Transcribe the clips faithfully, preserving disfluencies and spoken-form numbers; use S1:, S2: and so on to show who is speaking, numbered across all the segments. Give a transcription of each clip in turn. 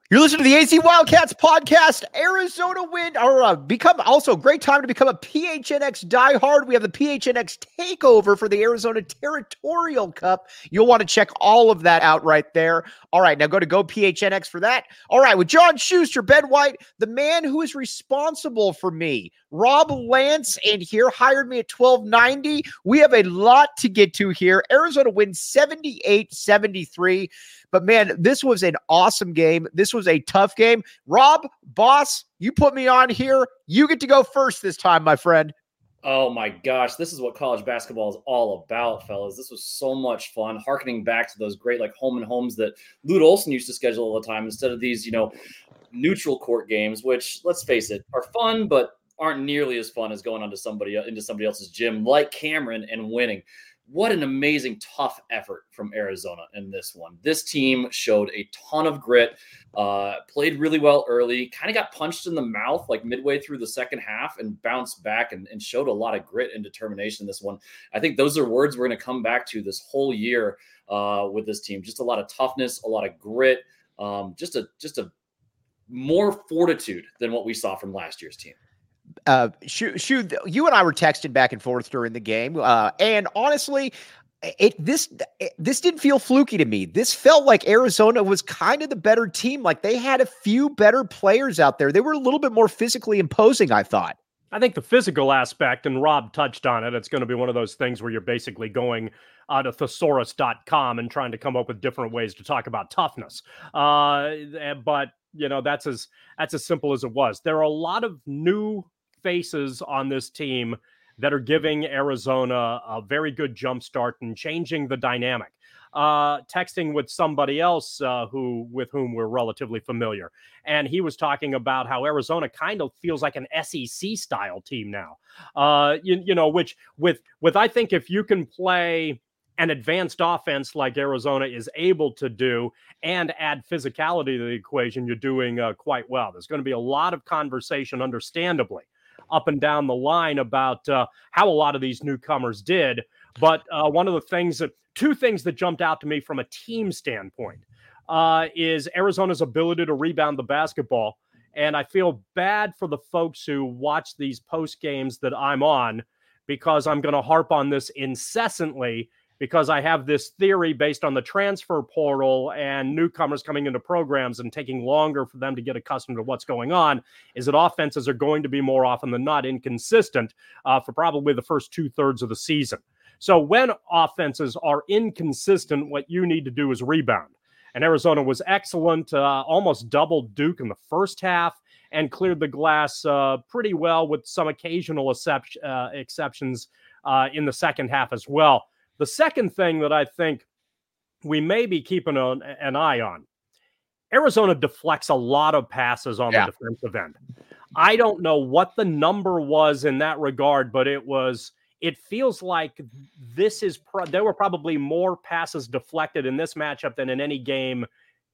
S1: You're listening to the A Z Wildcats podcast. Arizona win, or uh, become also great time to become a P H N X diehard. We have the P H N X takeover for the Arizona Territorial Cup. You'll want to check all of that out right there. All right, now go to Go P H N X for that. All right, with John Schuster, Ben White, the man who is responsible for me, Rob Lance, and here hired me at twelve ninety. We have a lot to get to here. Arizona wins seventy-eight seventy-three. But, man, this was an awesome game. This was a tough game. Rob, boss, you put me on here. You get to go first this time, my friend.
S2: Oh, my gosh. This is what college basketball is all about, fellas. This was so much fun, harkening back to those great, like, home and homes that Lute Olson used to schedule all the time instead of these, you know, neutral court games, which, let's face it, are fun, but aren't nearly as fun as going onto somebody into somebody else's gym like Cameron and winning. What an amazing, tough effort from Arizona in this one. This team showed a ton of grit, uh, played really well early, kind of got punched in the mouth like midway through the second half and bounced back and, and showed a lot of grit and determination in this one. I think those are words we're going to come back to this whole year uh, with this team. Just a lot of toughness, a lot of grit, um, just a just a more fortitude than what we saw from last year's team.
S1: Uh, Shu, Shu, you and I were texting back and forth during the game, uh, and honestly, it this it, this didn't feel fluky to me. This felt like Arizona was kind of the better team. Like they had a few better players out there. They were a little bit more physically imposing, I thought.
S3: I think the physical aspect, and Rob touched on it, it's going to be one of those things where you're basically going uh, to thesaurus dot com and trying to come up with different ways to talk about toughness. Uh, but, you know, that's as that's as simple as it was. There are a lot of new faces on this team that are giving Arizona a very good jump start and changing the dynamic. Uh, texting with somebody else uh, who with whom we're relatively familiar, and he was talking about how Arizona kind of feels like an S E C style team now. Uh, you, you know, which with with I think if you can play an advanced offense like Arizona is able to do and add physicality to the equation, you're doing uh, quite well. There's going to be a lot of conversation, understandably, up and down the line about uh, how a lot of these newcomers did. But uh, one of the things that two things that jumped out to me from a team standpoint uh, is Arizona's ability to rebound the basketball. And I feel bad for the folks who watch these post games that I'm on, because I'm going to harp on this incessantly, because I have this theory based on the transfer portal and newcomers coming into programs and taking longer for them to get accustomed to what's going on, is that offenses are going to be more often than not inconsistent uh, for probably the first two thirds of the season. So when offenses are inconsistent, what you need to do is rebound. And Arizona was excellent, uh, almost doubled Duke in the first half and cleared the glass uh, pretty well with some occasional excep- uh, exceptions uh, in the second half as well. The second thing that I think we may be keeping an, an eye on, Arizona deflects a lot of passes on yeah. the defensive end. I don't know what the number was in that regard, but it was, it feels like this is, pro- there were probably more passes deflected in this matchup than in any game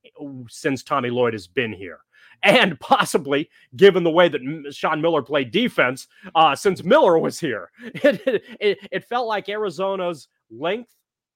S3: since Tommy Lloyd has been here. And possibly, given the way that Sean Miller played defense, uh, since Miller was here, it, it, it felt like Arizona's length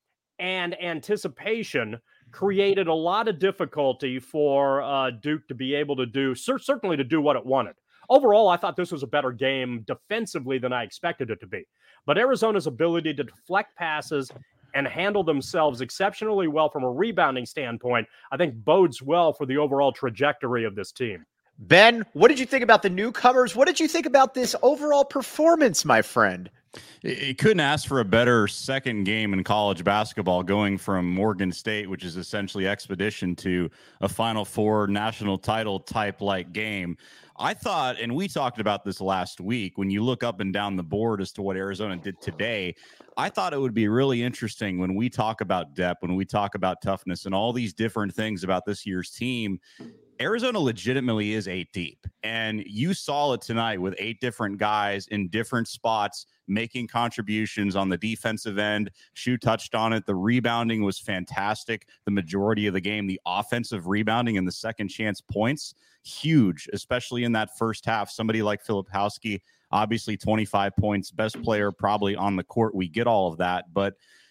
S3: and anticipation created a lot of difficulty for uh, Duke to be able to do, cer- certainly to do what it wanted. Overall, I thought this was a better game defensively than I expected it to be. But Arizona's ability to deflect passes and handle themselves exceptionally well from a rebounding standpoint, I think bodes well for the overall trajectory of this team.
S1: Ben, what did you think about the newcomers? What did you think about this overall performance, my friend?
S4: You couldn't ask for a better second game in college basketball, going from Morgan State, which is essentially Expedition, to a Final Four national title type like game. I thought, and we talked about this last week, when you look up and down the board as to what Arizona did today, I thought it would be really interesting when we talk about depth, when we talk about toughness and all these different things about this year's team. Arizona legitimately is eight deep, and you saw it tonight with eight different guys in different spots making contributions on the defensive end. Shu touched on it. The rebounding was fantastic the majority of the game. The offensive rebounding and the second chance points, huge, especially in that first half. Somebody like Filipowski, obviously twenty-five points, best player probably on the court. We get all of that, but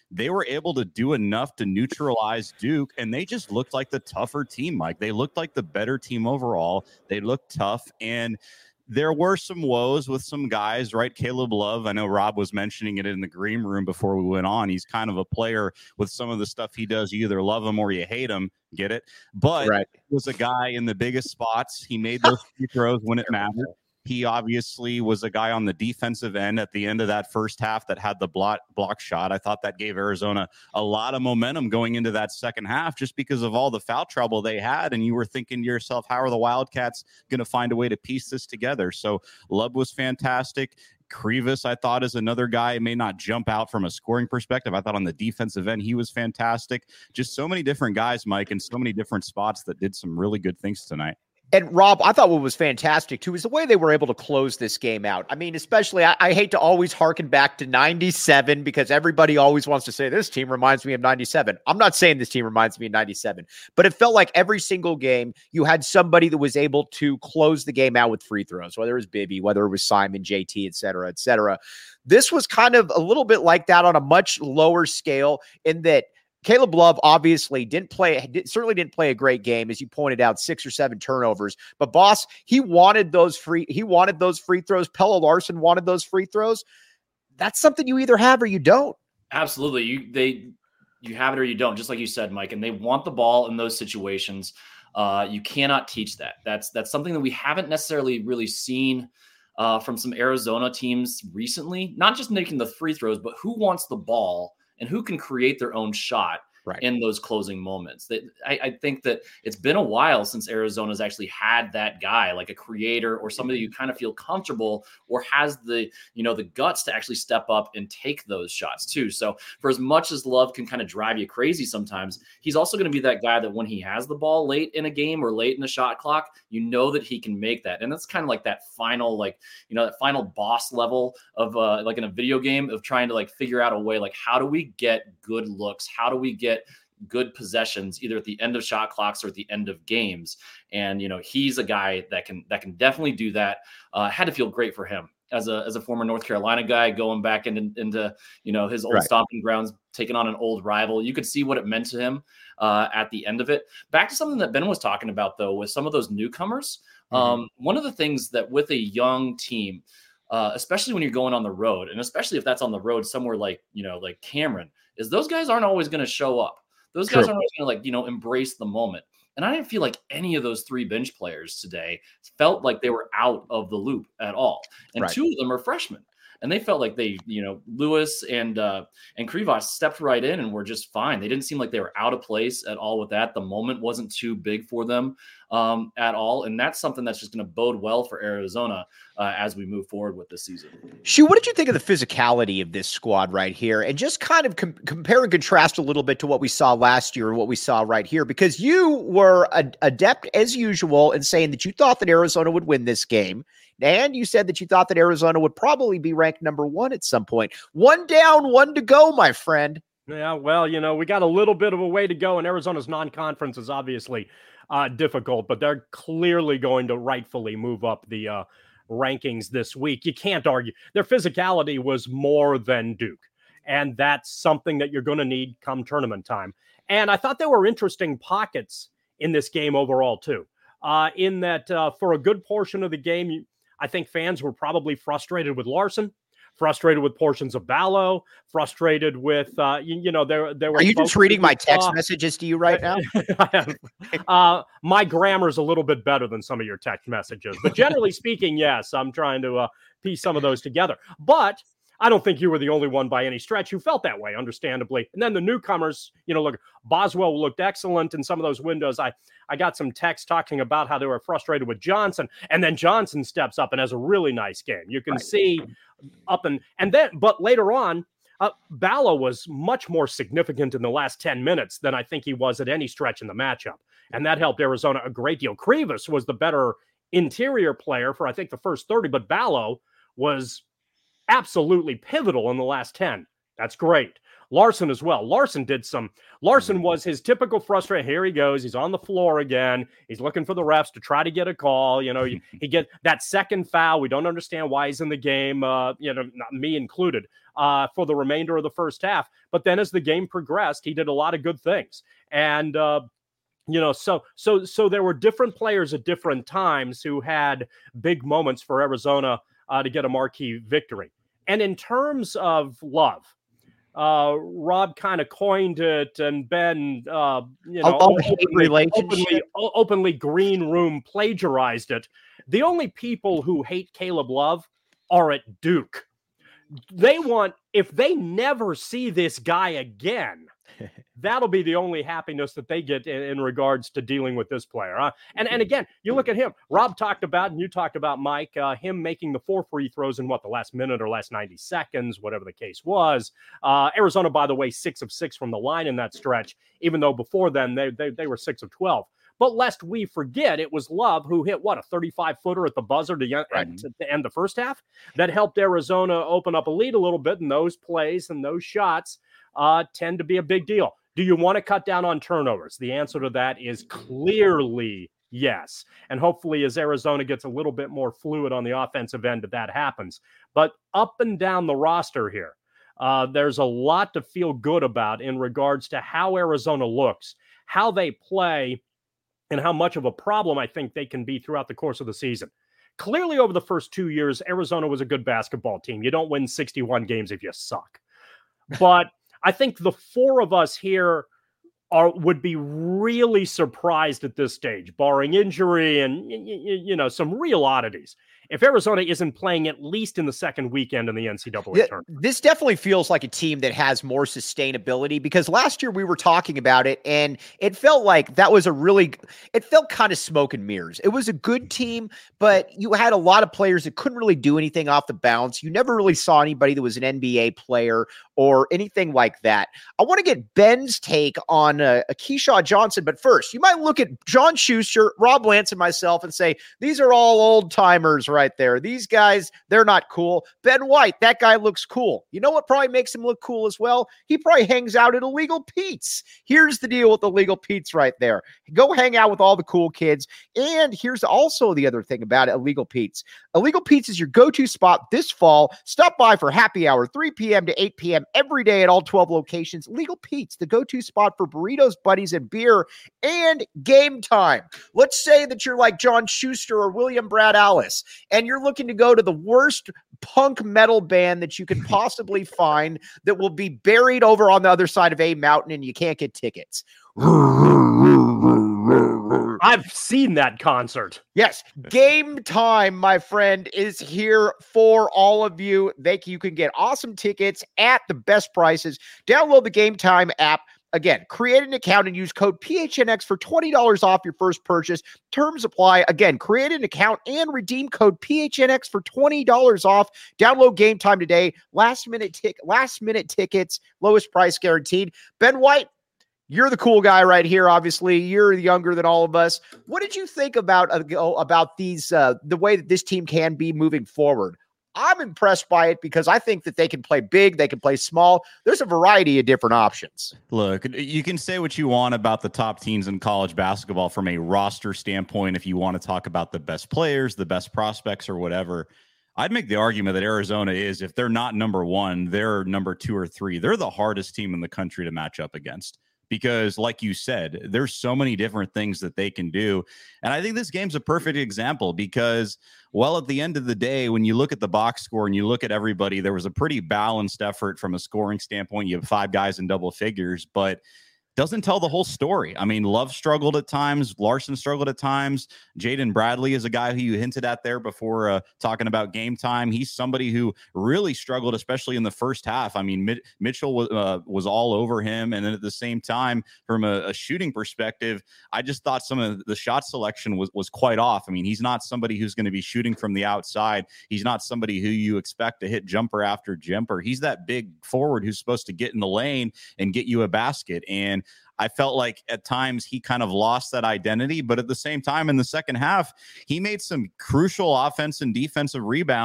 S4: they were able to do enough to neutralize Duke, and they just looked like the tougher team, Mike. They looked like the better team overall. They looked tough, and there were some woes with some guys, right? Caleb Love, I know Rob was mentioning it in the green room before we went on. He's kind of a player with some of the stuff he does. You either love him or you hate him. Get it? But
S1: right.
S4: he was a guy in the biggest spots. He made those free throws when it mattered. He obviously was a guy on the defensive end at the end of that first half that had the block block shot. I thought that gave Arizona a lot of momentum going into that second half just because of all the foul trouble they had. And you were thinking to yourself, how are the Wildcats going to find a way to piece this together? So Love was fantastic. Krivas, I thought, is another guy, may not jump out from a scoring perspective. I thought on the defensive end, he was fantastic. Just so many different guys, Mike, in so many different spots that did some really good things tonight.
S1: And Rob, I thought what was fantastic too is the way they were able to close this game out. I mean, especially I, I hate to always harken back to ninety-seven because everybody always wants to say this team reminds me of ninety-seven. I'm not saying this team reminds me of ninety-seven, but it felt like every single game you had somebody that was able to close the game out with free throws, whether it was Bibby, whether it was Simon, J T, et cetera, et cetera. This was kind of a little bit like that on a much lower scale in that Caleb Love obviously didn't play, certainly didn't play a great game, as you pointed out, six or seven turnovers. But boss, he wanted those free, he wanted those free throws. Pelle Larsson wanted those free throws. That's something you either have or you don't.
S2: Absolutely, you they you have it or you don't, just like you said, Mike. And they want the ball in those situations. Uh, you cannot teach that. That's that's something that we haven't necessarily really seen uh, from some Arizona teams recently. Not just making the free throws, but who wants the ball and who can create their own shot right in those closing moments. That I, I think that it's been a while since Arizona's actually had that guy, like a creator or somebody you kind of feel comfortable or has the, you know, the guts to actually step up and take those shots too. So for as much as Love can kind of drive you crazy sometimes, he's also going to be that guy that when he has the ball late in a game or late in the shot clock, you know that he can make that. And that's kind of like that final, like, you know, that final boss level of uh, like in a video game of trying to like figure out a way, like, how do we get good looks? How do we get good possessions either at the end of shot clocks or at the end of games? And, you know, he's a guy that can, that can definitely do that. Uh, had to feel great for him as a, as a former North Carolina guy going back into, into, you know, his old right. stomping grounds, taking on an old rival. You could see what it meant to him uh, at the end of it. Back to something that Ben was talking about though, with some of those newcomers. Mm-hmm. Um, one of the things that with a young team, uh, especially when you're going on the road, and especially if that's on the road somewhere like, you know, like Cameron, is those guys aren't always going to show up. Those guys True. aren't always going to, like, you know, embrace the moment. And I didn't feel like any of those three bench players today felt like they were out of the loop at all. And right. two of them are freshmen. And they felt like they, you know, Lewis and uh, and Krivas stepped right in and were just fine. They didn't seem like they were out of place at all with that. The moment wasn't too big for them um, at all. And that's something that's just going to bode well for Arizona uh, as we move forward with this season.
S1: Shu, what did you think of the physicality of this squad right here? And just kind of com- compare and contrast a little bit to what we saw last year and what we saw right here, because you were a- adept as usual in saying that you thought that Arizona would win this game. And you said that you thought that Arizona would probably be ranked number one at some point. One down, one to go, my friend.
S3: Yeah, well, you know, we got a little bit of a way to go, and Arizona's non-conference is obviously uh, difficult, but they're clearly going to rightfully move up the uh, rankings this week. You can't argue. Their physicality was more than Duke, and that's something that you're going to need come tournament time. And I thought there were interesting pockets in this game overall, too, uh, in that uh, for a good portion of the game, you, I think fans were probably frustrated with Larsson, frustrated with portions of Ballo, frustrated with, uh, you, you know, there, there were.
S1: Are you just reading my text
S3: uh,
S1: messages to you right now?
S3: uh, my grammar is a little bit better than some of your text messages, but generally speaking, yes, I'm trying to uh, piece some of those together. But I don't think you were the only one by any stretch who felt that way, understandably. And then the newcomers, you know, look, Boswell looked excellent in some of those windows. I, I got some text talking about how they were frustrated with Johnson, and then Johnson steps up and has a really nice game. You can right. see up and, and then, but later on, uh, Ballo was much more significant in the last ten minutes than I think he was at any stretch in the matchup. And that helped Arizona a great deal. Krivas was the better interior player for, I think, the first thirty, but Ballo was absolutely pivotal in the last ten. That's great. Larson as well. Larson did some. Larson was his typical frustrated. Here he goes. He's on the floor again. He's looking for the refs to try to get a call. You know, he, he get that second foul. We don't understand why he's in the game. Uh, you know, not me included. Uh, for the remainder of the first half. But then as the game progressed, he did a lot of good things. And uh, you know, so so so there were different players at different times who had big moments for Arizona uh, to get a marquee victory. And in terms of love, uh, Rob kind of coined it, and Ben, uh, you know,
S1: oh,
S3: openly, openly, openly green room plagiarized it. The only people who hate Caleb Love are at Duke. They want, if they never see this guy again, that'll be the only happiness that they get in, in regards to dealing with this player. Huh? And and again, you look at him. Rob talked about, and you talked about, Mike, uh, him making the four free throws in what, the last minute or last ninety seconds, whatever the case was. Uh, Arizona, by the way, six of six from the line in that stretch, even though before then they they, they were six of twelve. But lest we forget, it was Love who hit, what, a thirty-five footer at the buzzer to, right. to, to end the first half. That helped Arizona open up a lead a little bit, and those plays and those shots uh, tend to be a big deal. Do you want to cut down on turnovers? The answer to that is clearly yes. And hopefully as Arizona gets a little bit more fluid on the offensive end, that happens. But up and down the roster here, uh, there's a lot to feel good about in regards to how Arizona looks, how they play, and how much of a problem I think they can be throughout the course of the season. Clearly, over the first two years, Arizona was a good basketball team. You don't win sixty-one games if you suck. But I think the four of us here are would be really surprised at this stage, barring injury and, you, you know, some real oddities, if Arizona isn't playing at least in the second weekend in the N C double A
S1: yeah,
S3: tournament.
S1: This definitely feels like a team that has more sustainability, because last year we were talking about it and it felt like that was a really, it felt kind of smoke and mirrors. It was a good team, but you had a lot of players that couldn't really do anything off the bounce. You never really saw anybody that was an N B A player or anything like that. I want to get Ben's take on uh, Keyshawn Johnson, but first, you might look at John Schuster, Rob Lance, and myself and say, these are all old timers right there. These guys, they're not cool. Ben White, that guy looks cool. You know what probably makes him look cool as well? He probably hangs out at Illegal Pete's. Here's the deal with Illegal Pete's right there. Go hang out with all the cool kids. And here's also the other thing about Illegal Pete's. Illegal Pete's is your go-to spot this fall. Stop by for happy hour, three p.m. to eight p.m. every day at all twelve locations. Illegal Pete's, the go-to spot for burritos, buddies, and beer, and game time. Let's say that you're like John Schuster or William Brad Alice, and you're looking to go to the worst punk metal band that you can possibly find that will be buried over on the other side of a mountain, and you can't get tickets.
S3: I've seen that concert.
S1: Yes, Game Time, my friend, is here for all of you. They, you can get awesome tickets at the best prices. Download the Game Time app. Again, create an account and use code P H N X for twenty dollars off your first purchase. Terms apply. Again, create an account and redeem code P H N X for twenty dollars off. Download Game Time today. Last minute tick, last minute tickets, lowest price guaranteed. Ben White, you're the cool guy right here. Obviously, you're younger than all of us. What did you think about uh, about these uh, the way that this team can be moving forward? I'm impressed by it because I think that they can play big, they can play small. There's a variety of different options.
S4: Look, you can say what you want about the top teams in college basketball from a roster standpoint. If you want to talk about the best players, the best prospects, or whatever, I'd make the argument that Arizona is, if they're not number one, they're number two or three. They're the hardest team in the country to match up against. Because like you said, there's so many different things that they can do. And I think this game's a perfect example because, well, at the end of the day, when you look at the box score and you look at everybody, there was a pretty balanced effort from a scoring standpoint. You have five guys in double figures, but doesn't tell the whole story. I mean, Love struggled at times. Larson struggled at times. Jaden Bradley is a guy who you hinted at there before uh, talking about Game Time. He's somebody who really struggled, especially in the first half. I mean, Mit- Mitchell was, uh, was all over him. And then at the same time, from a, a shooting perspective, I just thought some of the shot selection was, was quite off. I mean, he's not somebody who's going to be shooting from the outside. He's not somebody who you expect to hit jumper after jumper. He's that big forward who's supposed to get in the lane and get you a basket. And I felt like at times he kind of lost that identity, but at the same time in the second half, he made some crucial offense and defensive rebounds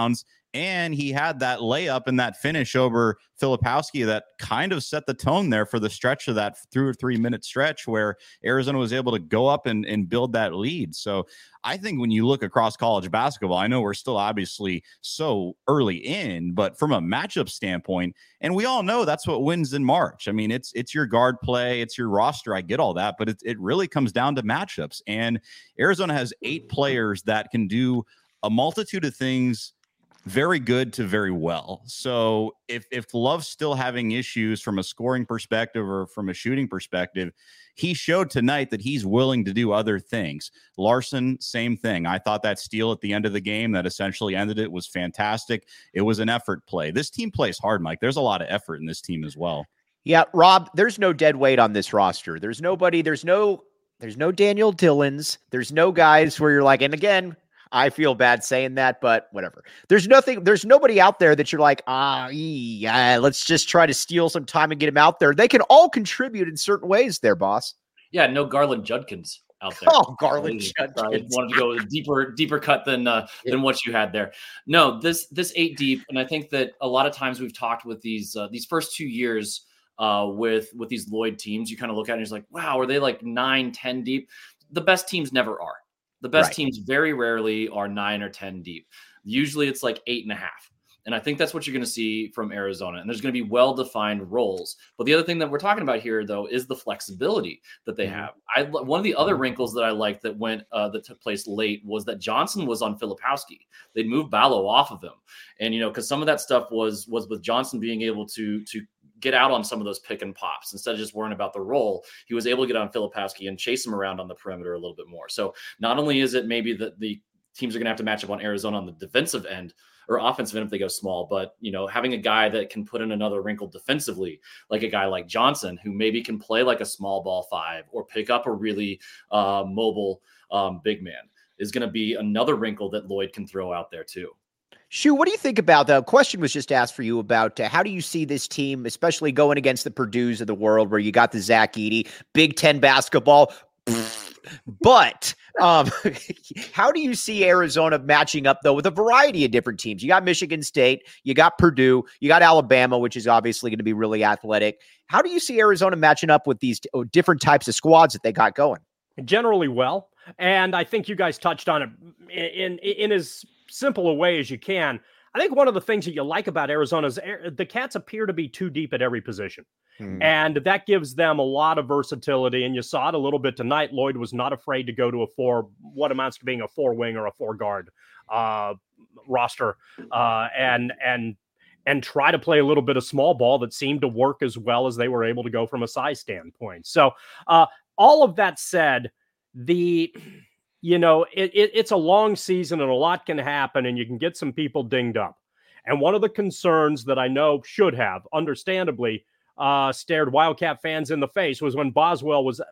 S4: And he had that layup and that finish over Filipowski that kind of set the tone there for the stretch of that two or three minute stretch where Arizona was able to go up and, and build that lead. So I think when you look across college basketball, I know we're still obviously so early in, but from a matchup standpoint, and we all know that's what wins in March. I mean, it's it's your guard play, it's your roster. I get all that, but it, it really comes down to matchups. And Arizona has eight players that can do a multitude of things very good to very well. So if if Love's still having issues from a scoring perspective or from a shooting perspective, he showed tonight that he's willing to do other things. Larson, same thing. I thought that steal at the end of the game that essentially ended it was fantastic. It was an effort play. This team plays hard, Mike. There's a lot of effort in this team as well.
S1: Yeah, Rob, there's no dead weight on this roster. There's nobody, there's no, there's no Daniel Dillons. There's no guys where you're like, and again, I feel bad saying that, but whatever. There's nothing, there's nobody out there that you're like, ah, yeah, let's just try to steal some time and get him out there. They can all contribute in certain ways there, boss.
S2: Yeah, no Garland Judkins out there.
S1: Oh, Garland Judkins.
S2: I wanted to go with a deeper, deeper cut than uh, yeah. than what you had there. No, this this eight deep, and I think that a lot of times we've talked with these uh, these first two years uh, with with these Lloyd teams. You kind of look at it and it's like, wow, are they like nine, ten deep? The best teams never are. The best right. teams very rarely are nine or ten deep. Usually it's like eight and a half. And I think that's what you're going to see from Arizona. And there's going to be well-defined roles. But the other thing that we're talking about here, though, is the flexibility that they mm-hmm. have. I One of the other wrinkles that I liked that went uh, that took place late was that Johnson was on Filipowski. They'd moved Ballo off of him. And, you know, because some of that stuff was was with Johnson being able to to get out on some of those pick and pops instead of just worrying about the roll. He was able to get on Filipowski and chase him around on the perimeter a little bit more. So not only is it maybe that the teams are going to have to match up on Arizona on the defensive end or offensive end if they go small, but you know, having a guy that can put in another wrinkle defensively, like a guy like Johnson, who maybe can play like a small ball five or pick up a really uh, mobile um, big man, is going to be another wrinkle that Lloyd can throw out there too.
S1: Shu, what do you think about the question was just asked for you about uh, how do you see this team, especially going against the Purdue's of the world where you got the Zach Edey, Big Ten basketball, but um, how do you see Arizona matching up though with a variety of different teams? You got Michigan State, you got Purdue, you got Alabama, which is obviously going to be really athletic. How do you see Arizona matching up with these t- different types of squads that they got going?
S3: Generally well. And I think you guys touched on it in, in, in as simple a way as you can. I think one of the things that you like about Arizona is the Cats appear to be too deep at every position. Hmm. And that gives them a lot of versatility. And you saw it a little bit tonight. Lloyd was not afraid to go to a four, what amounts to being a four wing or a four guard uh, roster uh, and, and, and try to play a little bit of small ball that seemed to work as well as they were able to go from a size standpoint. So uh, all of that said, the, you know, it, it, it's a long season and a lot can happen and you can get some people dinged up. And one of the concerns that I know should have, understandably, uh, stared Wildcat fans in the face was when Boswell was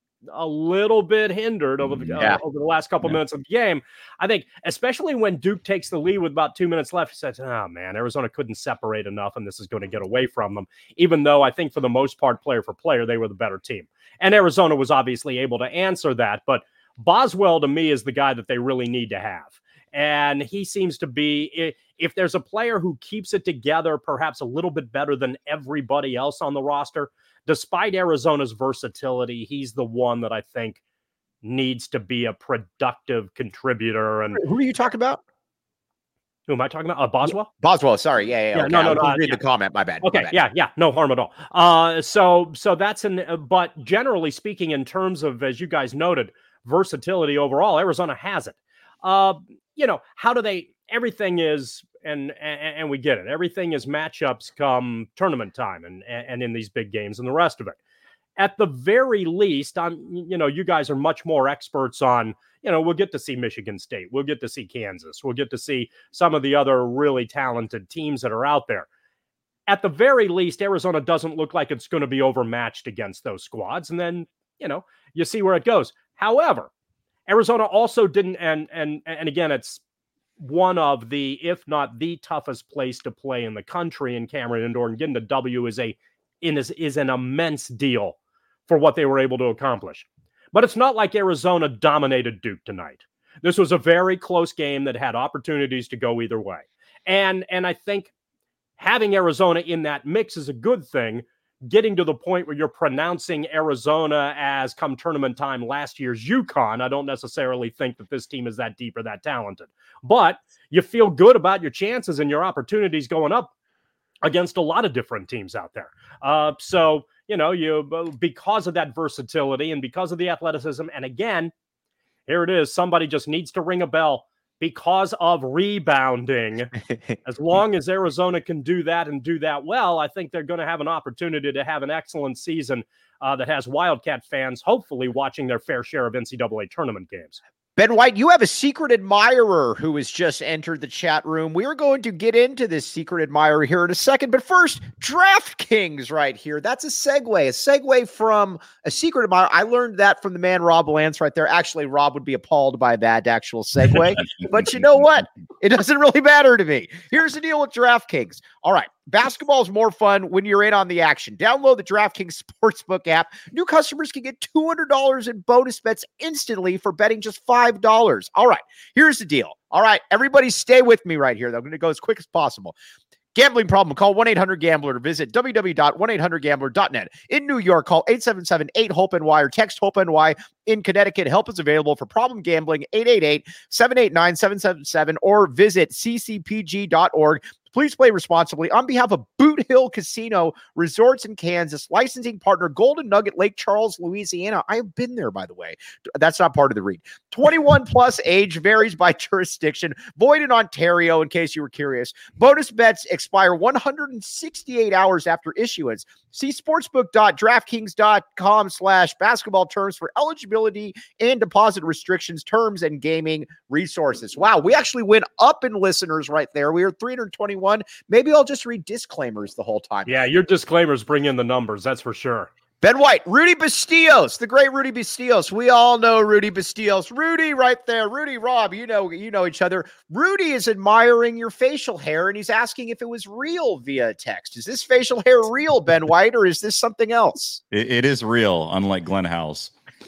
S3: a little bit hindered over the, yeah. uh, over the last couple yeah. minutes of the game. I think, especially when Duke takes the lead with about two minutes left, he says, oh, man, Arizona couldn't separate enough and this is going to get away from them, even though I think for the most part, player for player, they were the better team. And Arizona was obviously able to answer that, but Boswell, to me, is the guy that they really need to have. And he seems to be, if there's a player who keeps it together, perhaps a little bit better than everybody else on the roster, despite Arizona's versatility, he's the one that I think needs to be a productive contributor. And
S1: who are you talking about?
S3: Who am I talking about? Uh, Boswell?
S1: Boswell, sorry. Yeah, yeah.
S3: yeah
S1: okay.
S3: No, no, no.
S1: I was reading
S3: yeah.
S1: the comment. My bad.
S3: Okay,
S1: My bad.
S3: yeah, yeah. No harm at all. Uh, so, so that's an, uh, but generally speaking, in terms of, as you guys noted, versatility overall, Arizona has it. Uh, you know, how do they, everything is, and, and and we get it, everything is matchups come tournament time and, and in these big games and the rest of it. At the very least, I'm, you know, you guys are much more experts on, you know, we'll get to see Michigan State, we'll get to see Kansas, we'll get to see some of the other really talented teams that are out there. At the very least, Arizona doesn't look like it's going to be overmatched against those squads. And then, you know, you see where it goes. However, Arizona also didn't, and and and again, it's one of the, if not the toughest place to play in the country in Cameron Indoor, and getting the W is a is, is an immense deal for what they were able to accomplish. But it's not like Arizona dominated Duke tonight. This was a very close game that had opportunities to go either way. And, and I think having Arizona in that mix is a good thing. Getting to the point where you're pronouncing Arizona as come tournament time last year's UConn, I don't necessarily think that this team is that deep or that talented. But you feel good about your chances and your opportunities going up against a lot of different teams out there. Uh, so, you know, you because of that versatility and because of the athleticism, and again, here it is, somebody just needs to ring a bell. Because of rebounding, as long as Arizona can do that and do that well, I think they're going to have an opportunity to have an excellent season uh, that has Wildcat fans hopefully watching their fair share of N C double A tournament games.
S1: Ben White, you have a secret admirer who has just entered the chat room. We are going to get into this secret admirer here in a second, but first, DraftKings right here. That's a segue, a segue from a secret admirer. I learned that from the man Rob Lance right there. Actually, Rob would be appalled by that actual segue, but you know what? It doesn't really matter to me. Here's the deal with DraftKings. All right. Basketball is more fun when you're in on the action. Download the DraftKings Sportsbook app. New customers can get two hundred dollars in bonus bets instantly for betting just five dollars. All right, here's the deal. All right, everybody stay with me right here. I'm going to go as quick as possible. Gambling problem, call one eight hundred gambler or visit w w w dot one eight hundred gambler dot net. In New York, call eight seven seven eight hope N Y or text HOPE-N-Y. In Connecticut, help is available for problem gambling, eight eight eight, seven eight nine, seven seven seven, or visit c c p g dot org. Please play responsibly. On behalf of Boot Hill Casino Resorts in Kansas, licensing partner Golden Nugget, Lake Charles, Louisiana. I have been there, by the way. That's not part of the read. twenty-one plus age varies by jurisdiction. Void in Ontario, in case you were curious. Bonus bets expire one hundred sixty-eight hours after issuance. See sportsbook dot draftkings dot com slash basketball terms for eligibility and deposit restrictions, terms, and gaming resources. Wow, we actually went up in listeners right there. We were three hundred twenty-one. Maybe I'll just read disclaimers the whole time.
S3: Yeah, your disclaimers bring in the numbers, that's for sure.
S1: Ben White, Rudy Bastillos, the great Rudy Bastillos. We all know Rudy Bastillos. Rudy right there. Rudy, Rob, you know, you know each other. Rudy is admiring your facial hair, and he's asking if it was real via text. Is this facial hair real, Ben White, or is this something else?
S4: It, it is real, unlike Glenn House.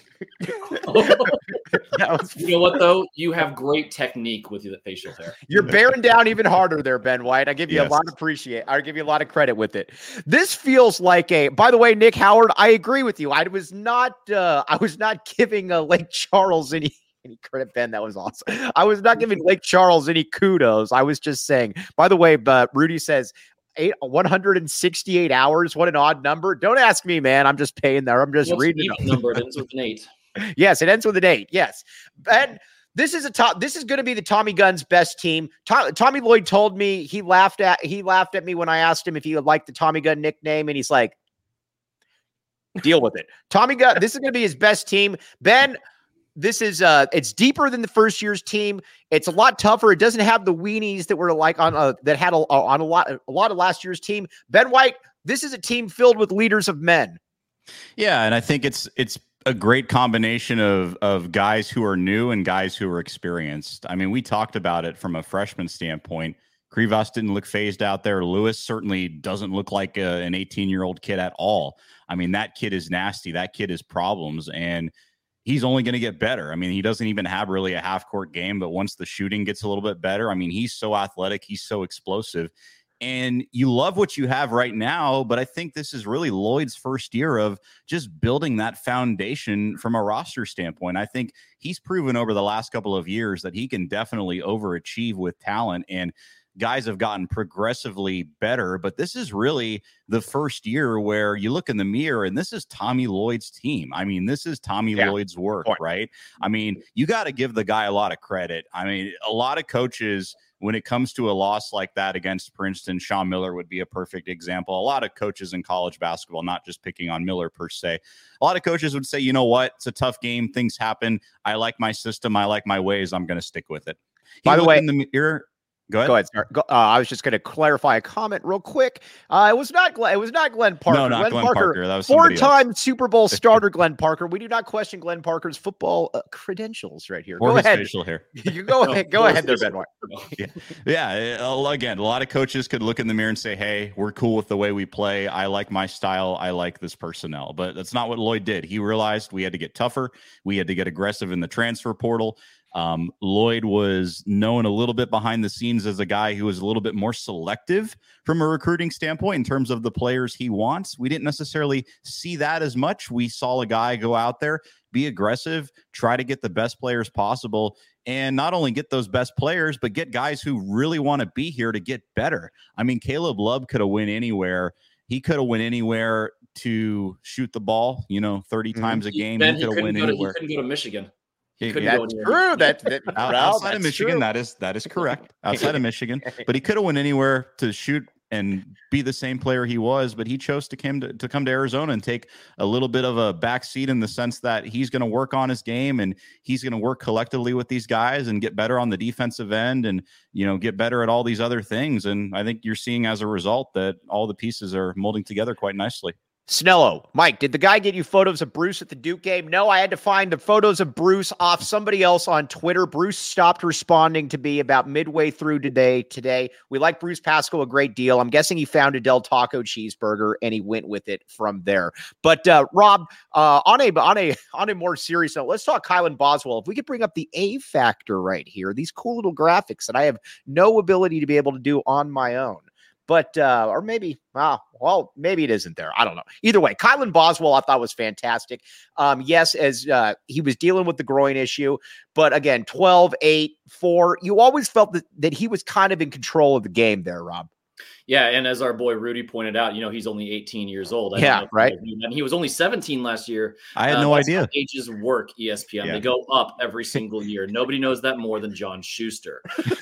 S2: was, you know what, though? You have great technique with your facial hair.
S1: You're bearing down even harder there, Ben White. I give you yes. a lot of appreciate. I give you a lot of credit with it. This feels like a. By the way, Nick Howard, I agree with you. I was not. Uh, I was not giving uh, Lake Charles any. Any credit, Ben? That was awesome. I was not giving Lake Charles any kudos. I was just saying. By the way, but Rudy says. Eight, one hundred sixty-eight hours. What an odd number. Don't ask me, man. I'm just paying there. I'm just
S2: What's
S1: reading
S2: the number. It ends with an eight.
S1: Yes, it ends with an eight. Yes. And this is a top. This is going to be the Tommy Gunn's best team. Tom, Tommy Lloyd told me he laughed at he laughed at me when I asked him if he would like the Tommy Gunn nickname, and he's like, deal with it. Tommy Gunn, this is going to be his best team. Ben, this is uh it's deeper than the first year's team. It's a lot tougher. It doesn't have the weenies that were like on uh, that had a, on a lot a lot of last year's team. Ben White, this is a team filled with leaders of men.
S4: Yeah, and I think it's it's a great combination of of guys who are new and guys who are experienced. I mean, we talked about it from a freshman standpoint. Krivas didn't look phased out there. Lewis certainly doesn't look like a, an eighteen-year-old kid at all. I mean, that kid is nasty. That kid is problems, and he's only going to get better. I mean, he doesn't even have really a half-court game, but once the shooting gets a little bit better, I mean, he's so athletic. He's so explosive. And you love what you have right now, but I think this is really Lloyd's first year of just building that foundation from a roster standpoint. I think he's proven over the last couple of years that he can definitely overachieve with talent, and guys have gotten progressively better, but this is really the first year where you look in the mirror and this is Tommy Lloyd's team. I mean, this is Tommy yeah. Lloyd's work, Point. right? I mean, you got to give the guy a lot of credit. I mean, a lot of coaches, when it comes to a loss like that against Princeton, Sean Miller would be a perfect example. A lot of coaches in college basketball, not just picking on Miller per se, a lot of coaches would say, you know what? It's a tough game. Things happen. I like my system. I like my ways. I'm going to stick with it. He
S1: By the way,
S4: in the mirror, Go ahead.
S1: Go ahead. Sir. Go, uh, I was just going to clarify a comment real quick. Uh, it was not Glenn. It was not Glenn Parker.
S4: No, not
S1: Glenn,
S4: Glenn
S1: Parker,
S4: Parker. That was
S1: four-time Super Bowl starter Glenn Parker. We do not question Glenn Parker's football uh, credentials right here.
S4: Or
S1: go
S4: his
S1: ahead.
S4: facial hair.
S1: You go ahead. Go ahead there, Ben White.
S4: yeah. yeah. Again, a lot of coaches could look in the mirror and say, hey, we're cool with the way we play. I like my style. I like this personnel. But that's not what Lloyd did. He realized we had to get tougher. We had to get aggressive in the transfer portal. Um, Lloyd was known a little bit behind the scenes as a guy who was a little bit more selective from a recruiting standpoint in terms of the players he wants. We didn't necessarily see that as much. We saw a guy go out there, be aggressive, try to get the best players possible, and not only get those best players, but get guys who really want to be here to get better. I mean, Caleb Love could have went anywhere. He could have went anywhere to shoot the ball, you know, thirty mm-hmm. times a game.
S2: Ben,
S4: he could have went
S2: to,
S4: anywhere.
S2: He couldn't go to Michigan.
S1: He, that's true. That, that
S4: outside
S1: well,
S4: of Michigan,
S1: true.
S4: that is that is correct. Outside of Michigan, but he could have went anywhere to shoot and be the same player he was. But he chose to come to, to come to Arizona and take a little bit of a back seat in the sense that he's going to work on his game and he's going to work collectively with these guys and get better on the defensive end and, you know, get better at all these other things. And I think you're seeing as a result that all the pieces are molding together quite nicely.
S1: Snello, Mike, did the guy get you photos of Bruce at the Duke game? No, I had to find the photos of Bruce off somebody else on Twitter. Bruce stopped responding to me about midway through today. Today, we like Bruce Pascoe a great deal. I'm guessing he found a Del Taco cheeseburger and he went with it from there. But uh, Rob, uh, on a on a on a more serious note, let's talk Kylan Boswell. If we could bring up the A factor right here, these cool little graphics that I have no ability to be able to do on my own. But, uh, or maybe, well, well, maybe it isn't there. I don't know. Either way, Kylan Boswell, I thought was fantastic. Um, yes, as uh, he was dealing with the groin issue, but again, twelve, eight, four, you always felt that, that he was kind of in control of the game there, Rob.
S2: Yeah, and as our boy Rudy pointed out, you know, he's only eighteen years old. I
S1: yeah, right.
S2: And he was only seventeen last year.
S4: I had uh, no idea.
S2: Ages work, E S P N. Yeah. They go up every single year. Nobody knows that more than John Schuster.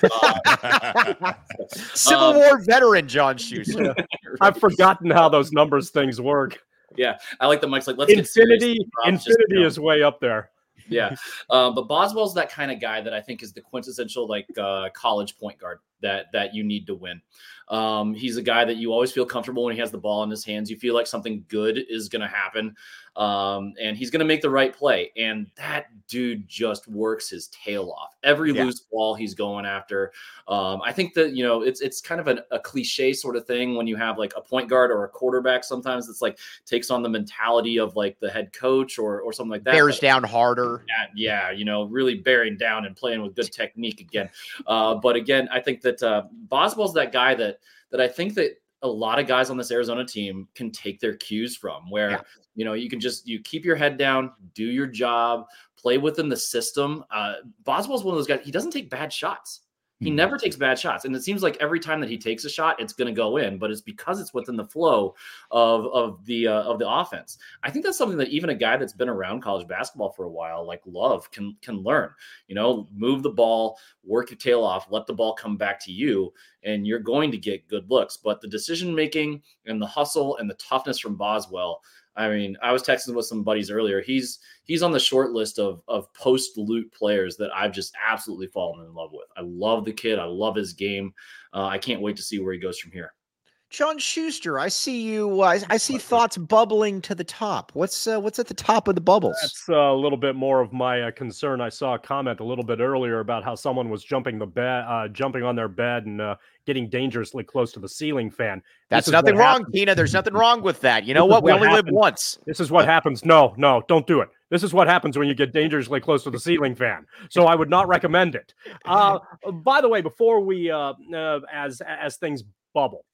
S2: Uh,
S1: Civil um, War veteran John Schuster.
S3: Yeah. I've forgotten how those numbers things work.
S2: Yeah, I like the Mike's like, let's
S3: Infinity,
S2: get
S3: Infinity just, is know. way up there.
S2: Yeah, um, but Boswell's that kind of guy that I think is the quintessential like uh, college point guard that that you need to win. Um, he's a guy that you always feel comfortable when he has the ball in his hands. You feel like something good is going to happen, um, and he's going to make the right play. And that dude just works his tail off. Every yeah. loose ball he's going after. Um, I think that, you know, it's it's kind of an, a cliche sort of thing when you have like a point guard or a quarterback. Sometimes it's like takes on the mentality of like the head coach or or something like that.
S1: Bears
S2: but,
S1: down harder.
S2: Yeah, yeah, you know, really bearing down and playing with good technique again. Uh, but again, I think that uh, Boswell's that guy that that I think that a lot of guys on this Arizona team can take their cues from, where, yeah. you know, you can just, you keep your head down, do your job, play within the system. Uh, Boswell's one of those guys, he doesn't take bad shots. He mm-hmm. never takes bad shots. And it seems like every time that he takes a shot, it's going to go in, but it's because it's within the flow of, of the, uh, of the offense. I think that's something that even a guy that's been around college basketball for a while, like Love, can, can learn, you know, move the ball, work your tail off, let the ball come back to you, and you're going to get good looks. But the decision-making and the hustle and the toughness from Boswell, I mean, I was texting with some buddies earlier. He's he's on the short list of of post-loot players that I've just absolutely fallen in love with. I love the kid. I love his game. Uh, I can't wait to see where he goes from here.
S1: John Schuster, I see you. Uh, I see thoughts bubbling to the top. What's uh, what's at the top of the bubbles?
S3: That's a little bit more of my uh, concern. I saw a comment a little bit earlier about how someone was jumping the bed, uh, jumping on their bed, and uh, getting dangerously close to the ceiling fan.
S1: That's nothing wrong, happens. Tina. There's nothing wrong with that. You know what? We what only happens. live once.
S3: This is what happens. No, no, don't do it. This is what happens when you get dangerously close to the ceiling fan. So I would not recommend it. Uh, by the way, before we, uh, uh, as as things bubble,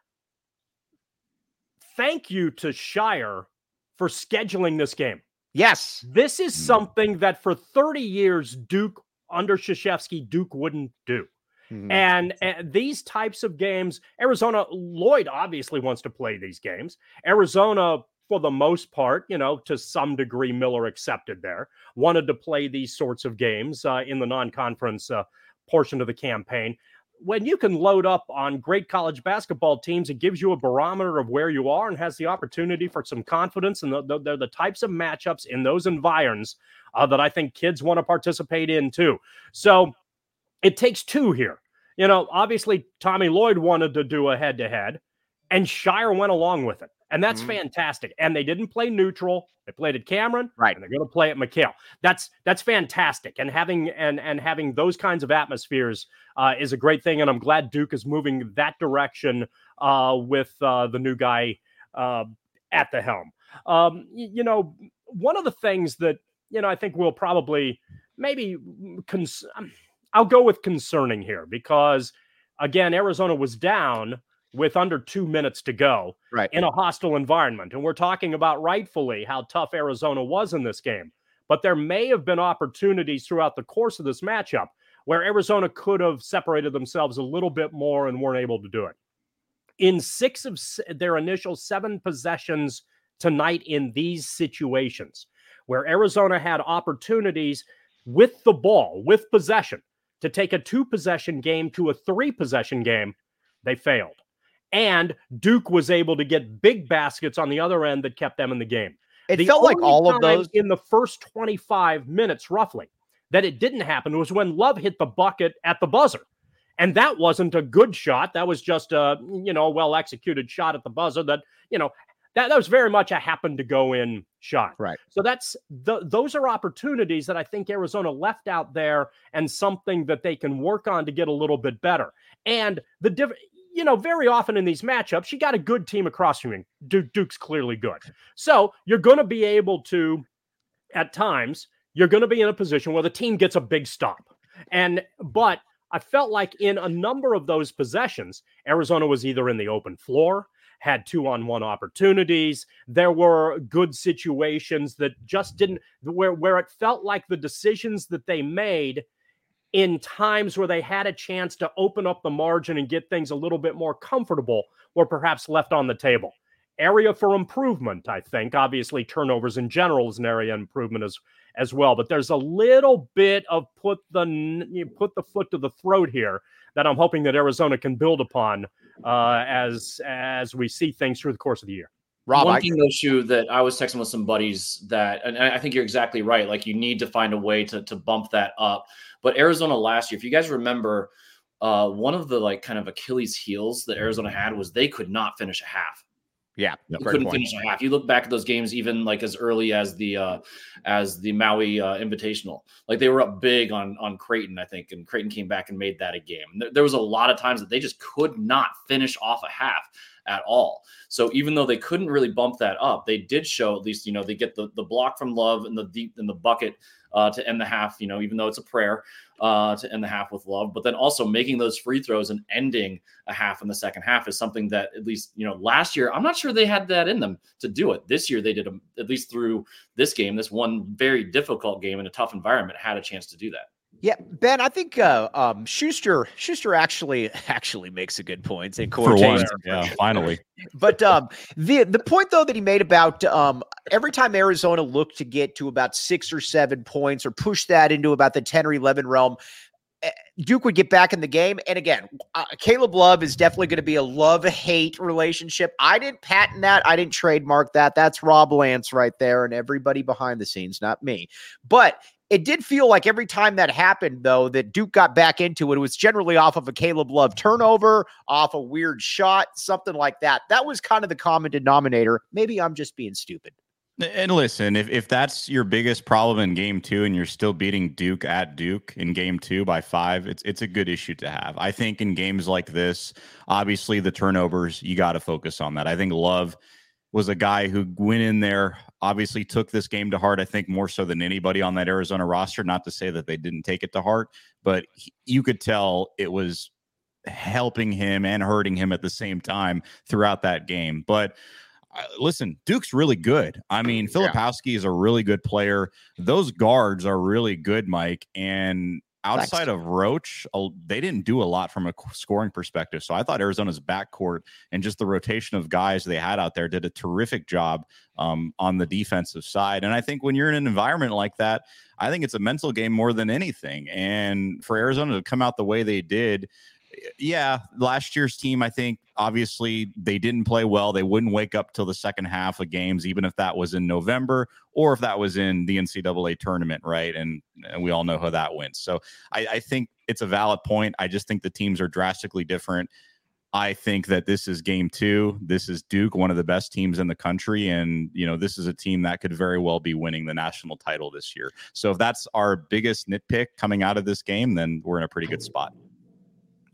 S3: thank you to Shire for scheduling this game.
S1: Yes.
S3: This is something that for thirty years, Duke, under Krzyzewski, Duke wouldn't do. Mm-hmm. And, and these types of games, Arizona, Lloyd obviously wants to play these games. Arizona, for the most part, you know, to some degree, Miller accepted there, wanted to play these sorts of games uh, in the non-conference uh, portion of the campaign. When you can load up on great college basketball teams, it gives you a barometer of where you are and has the opportunity for some confidence. And the, the, they're the types of matchups in those environs uh, that I think kids want to participate in too. So it takes two here. You know, obviously Tommy Lloyd wanted to do a head-to-head, and Shire went along with it. And that's mm-hmm. fantastic. And they didn't play neutral. They played at Cameron,
S1: right?
S3: And they're going to play at McHale. That's that's fantastic. And having and and having those kinds of atmospheres uh, is a great thing. And I'm glad Duke is moving that direction uh, with uh, the new guy uh, at the helm. Um, you, you know, one of the things that you know I think we'll probably maybe cons- I'll go with concerning here because, again, Arizona was down with under two minutes to go
S1: right.
S3: in a hostile environment. And we're talking about rightfully how tough Arizona was in this game. But there may have been opportunities throughout the course of this matchup where Arizona could have separated themselves a little bit more and weren't able to do it. In six of their initial seven possessions tonight in these situations, where Arizona had opportunities with the ball, with possession, to take a two-possession game to a three-possession game, they failed. And Duke was able to get big baskets on the other end that kept them in the game.
S1: It
S3: the
S1: felt like all of those
S3: in the first twenty-five minutes, roughly, that it didn't happen was when Love hit the bucket at the buzzer. And that wasn't a good shot. That was just a, you know, well-executed shot at the buzzer that, you know, that, that was very much a happen to go in shot.
S1: Right.
S3: So that's the, those are opportunities that I think Arizona left out there and something that they can work on to get a little bit better. And the different, you know, very often in these matchups, you got a good team across from you. Duke, Duke's clearly good. So you're going to be able to, at times, you're going to be in a position where the team gets a big stop. And, but I felt like in a number of those possessions, Arizona was either in the open floor, had two-on-one opportunities. There were good situations that just didn't, where, where it felt like the decisions that they made in times where they had a chance to open up the margin and get things a little bit more comfortable were perhaps left on the table. Area for improvement, I think. Obviously, turnovers in general is an area of improvement as, as well. But there's a little bit of put the you put the foot to the throat here that I'm hoping that Arizona can build upon uh, as as we see things through the course of the year.
S1: Rob,
S2: One
S1: I,
S2: thing though, Shu, that I was texting with some buddies that, and I think you're exactly right. Like you need to find a way to to bump that up. But Arizona last year, if you guys remember, uh, one of the like kind of Achilles heels that Arizona had was they could not finish a half.
S1: Yeah,
S2: you couldn't point. finish a half. You look back at those games, even like as early as the uh, as the Maui uh, Invitational, like they were up big on on Creighton, I think, and Creighton came back and made that a game. There, there was a lot of times that they just could not finish off a half at all. So even though they couldn't really bump that up, they did show at least, you know, they get the the block from Love and the deep in the bucket uh, to end the half. You know, even though it's a prayer uh, to end the half with Love, but then also making those free throws and ending a half in the second half is something that at least, you know, last year, I'm not sure they had that in them to do it. This year, they did, a, at least through this game, this one very difficult game in a tough environment, had a chance to do that.
S1: Yeah, Ben, I think uh, um, Schuster Schuster actually actually makes a good point. In
S4: For once, yeah, finally.
S1: But um, the the point though that he made about um, every time Arizona looked to get to about six or seven points or push that into about the ten or eleven realm, Duke would get back in the game. And again, uh, Caleb Love is definitely going to be a love-hate relationship. I didn't patent that. I didn't trademark that. That's Rob Lance right there and everybody behind the scenes, not me. But it did feel like every time that happened, though, that Duke got back into it, it was generally off of a Caleb Love turnover, off a weird shot, something like that. That was kind of the common denominator. Maybe I'm just being stupid.
S4: And listen, if, if that's your biggest problem in game two and you're still beating Duke at Duke in game two by five, it's it's a good issue to have. I think in games like this, obviously the turnovers, you got to focus on that. I think Love was a guy who went in there, obviously took this game to heart, I think more so than anybody on that Arizona roster. Not to say that they didn't take it to heart, but he, you could tell it was helping him and hurting him at the same time throughout that game. But uh, listen, Duke's really good. I mean, Filipowski yeah. is a really good player. Those guards are really good, Mike. And outside Thanks. of Roach, they didn't do a lot from a scoring perspective. So I thought Arizona's backcourt and just the rotation of guys they had out there did a terrific job um, on the defensive side. And I think when you're in an environment like that, I think it's a mental game more than anything. And for Arizona to come out the way they did, yeah, last year's team, I think, obviously, they didn't play well. They wouldn't wake up till the second half of games, even if that was in November or if that was in the N C double A tournament, right? And, and we all know how that went. So I, I think it's a valid point. I just think the teams are drastically different. I think that this is game two. This is Duke, one of the best teams in the country. And, you know, this is a team that could very well be winning the national title this year. So if that's our biggest nitpick coming out of this game, then we're in a pretty good spot.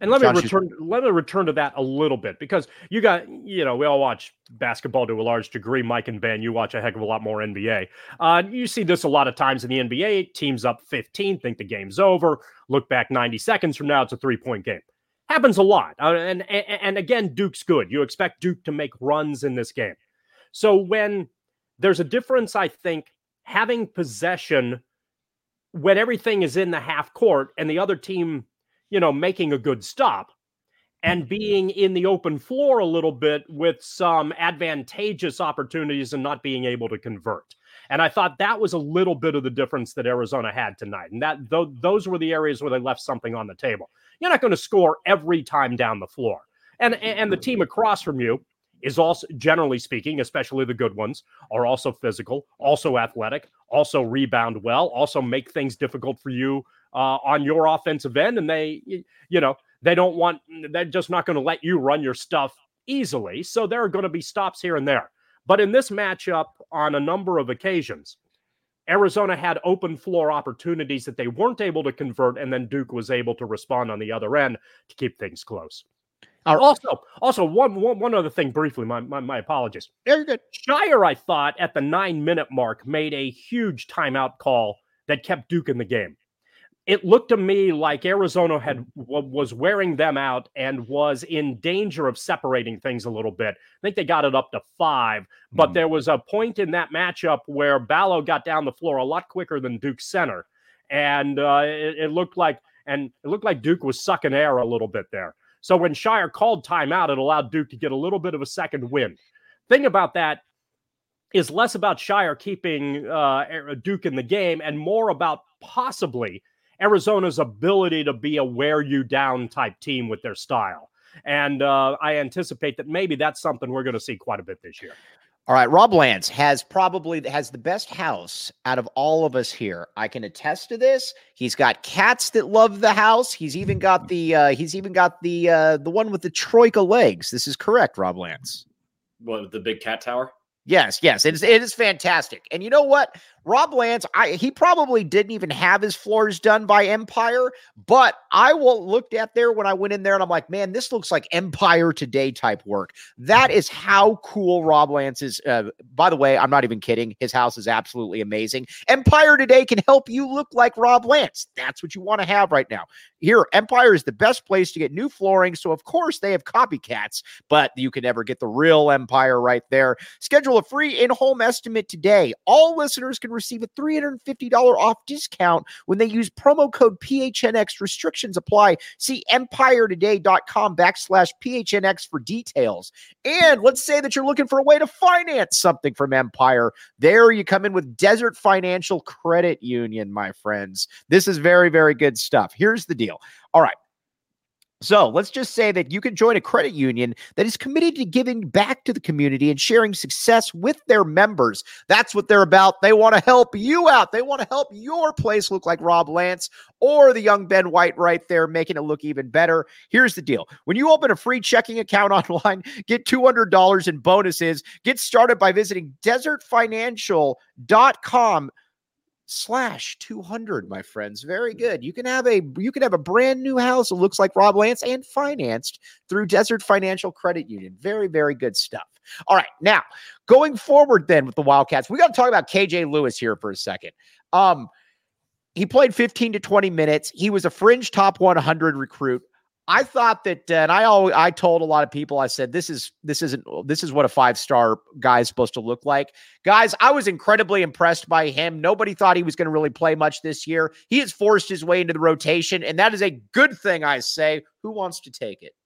S3: And let
S1: John,
S3: me return. Let me return to that a little bit because you got, you know, we all watch basketball to a large degree. Mike and Ben, you watch a heck of a lot more N B A. Uh, you see this a lot of times in the N B A. Teams up fifteen, think the game's over. Look back ninety seconds from now, it's a three-point game. Happens a lot. Uh, and, and and again, Duke's good. You expect Duke to make runs in this game. So when there's a difference, I think having possession when everything is in the half court and the other team, you know, making a good stop and being in the open floor a little bit with some advantageous opportunities and not being able to convert. And I thought that was a little bit of the difference that Arizona had tonight. And that th- those were the areas where they left something on the table. You're not going to score every time down the floor. And, and the team across from you is also, generally speaking, especially the good ones, are also physical, also athletic, also rebound well, also make things difficult for you uh, on your offensive end. And they, you know, they don't want, they're just not going to let you run your stuff easily. So there are going to be stops here and there. But in this matchup, on a number of occasions, Arizona had open floor opportunities that they weren't able to convert, and then Duke was able to respond on the other end to keep things close. Right. Also, also one, one one other thing briefly, my, my my apologies.
S1: Yeah, you're good.
S3: Scheyer, I thought, at the nine-minute mark, made a huge timeout call that kept Duke in the game. It looked to me like Arizona had was wearing them out and was in danger of separating things a little bit. I think they got it up to five, but mm. there was a point in that matchup where Ballo got down the floor a lot quicker than Duke's center, and uh, it, it looked like and it looked like Duke was sucking air a little bit there. So when Scheyer called timeout, it allowed Duke to get a little bit of a second wind. Thing about that is less about Scheyer keeping uh, Duke in the game and more about possibly Arizona's ability to be a wear you down type team with their style. And uh, I anticipate that maybe that's something we're going to see quite a bit this year.
S1: All right, Rob Lance has probably has the best house out of all of us here. I can attest to this. He's got cats that love the house. He's even got the uh, he's even got the uh, the one with the troika legs. This is correct, Rob Lance.
S2: What, the big cat tower?
S1: Yes, yes, it is. It is fantastic. And you know what? Rob Lance, I, he probably didn't even have his floors done by Empire, but I will looked at there when I went in there and I'm like, man, this looks like Empire Today type work. That is how cool Rob Lance is. Uh, by the way, I'm not even kidding. His house is absolutely amazing. Empire Today can help you look like Rob Lance. That's what you want to have right now. Here, Empire is the best place to get new flooring. So of course they have copycats, but you can never get the real Empire right there. Schedule a free in-home estimate today. All listeners can receive a three hundred fifty dollars off discount when they use promo code P H N X. Restrictions apply. See empiretoday.com backslash PHNX for details. And let's say that you're looking for a way to finance something from Empire. There you come in with Desert Financial Credit Union, my friends. This is very, very good stuff. Here's the deal. All right. So let's just say that you can join a credit union that is committed to giving back to the community and sharing success with their members. That's what they're about. They want to help you out. They want to help your place look like Rob Lance or the young Ben White right there, making it look even better. Here's the deal. When you open a free checking account online, get two hundred dollars in bonuses. Get started by visiting desert financial dot com slash two hundred, my friends. Very good. You can have a you can have a brand new house that looks like Rob Lance and financed through Desert Financial Credit Union. Very, very good stuff. All right, now going forward then with the Wildcats, we got to talk about K J Lewis here for a second. Um, he played fifteen to twenty minutes. He was a fringe top one hundred recruit. I thought that, uh, and I always, I told a lot of people, I said, this is, this isn't, this is what a five-star guy is supposed to look like. Guys, I was incredibly impressed by him. Nobody thought he was going to really play much this year. He has forced his way into the rotation, and that is a good thing, I say. Who wants to take it?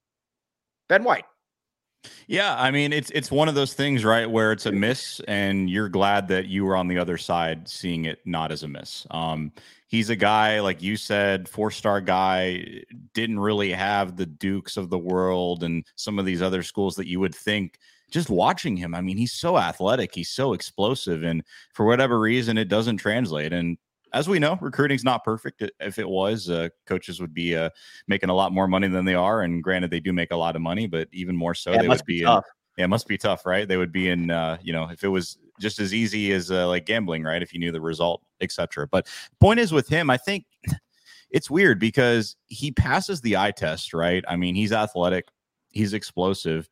S1: Ben White.
S4: Yeah, I mean, it's it's one of those things, right, where it's a miss, and you're glad that you were on the other side seeing it not as a miss. Um, he's a guy, like you said, four-star guy, didn't really have the Dukes of the world and some of these other schools that you would think. Just watching him, I mean, he's so athletic, he's so explosive, and for whatever reason, it doesn't translate. And as we know, recruiting's not perfect. If it was, uh, coaches would be uh, making a lot more money than they are. And granted, they do make a lot of money, but even more so,
S1: yeah,
S4: they would be,
S1: be
S4: in, yeah, it must be tough, right? They would be in, uh, you know, if it was just as easy as uh, like gambling, right? If you knew the result, et cetera. But point is with him, I think it's weird because he passes the eye test, right? I mean, he's athletic, he's explosive,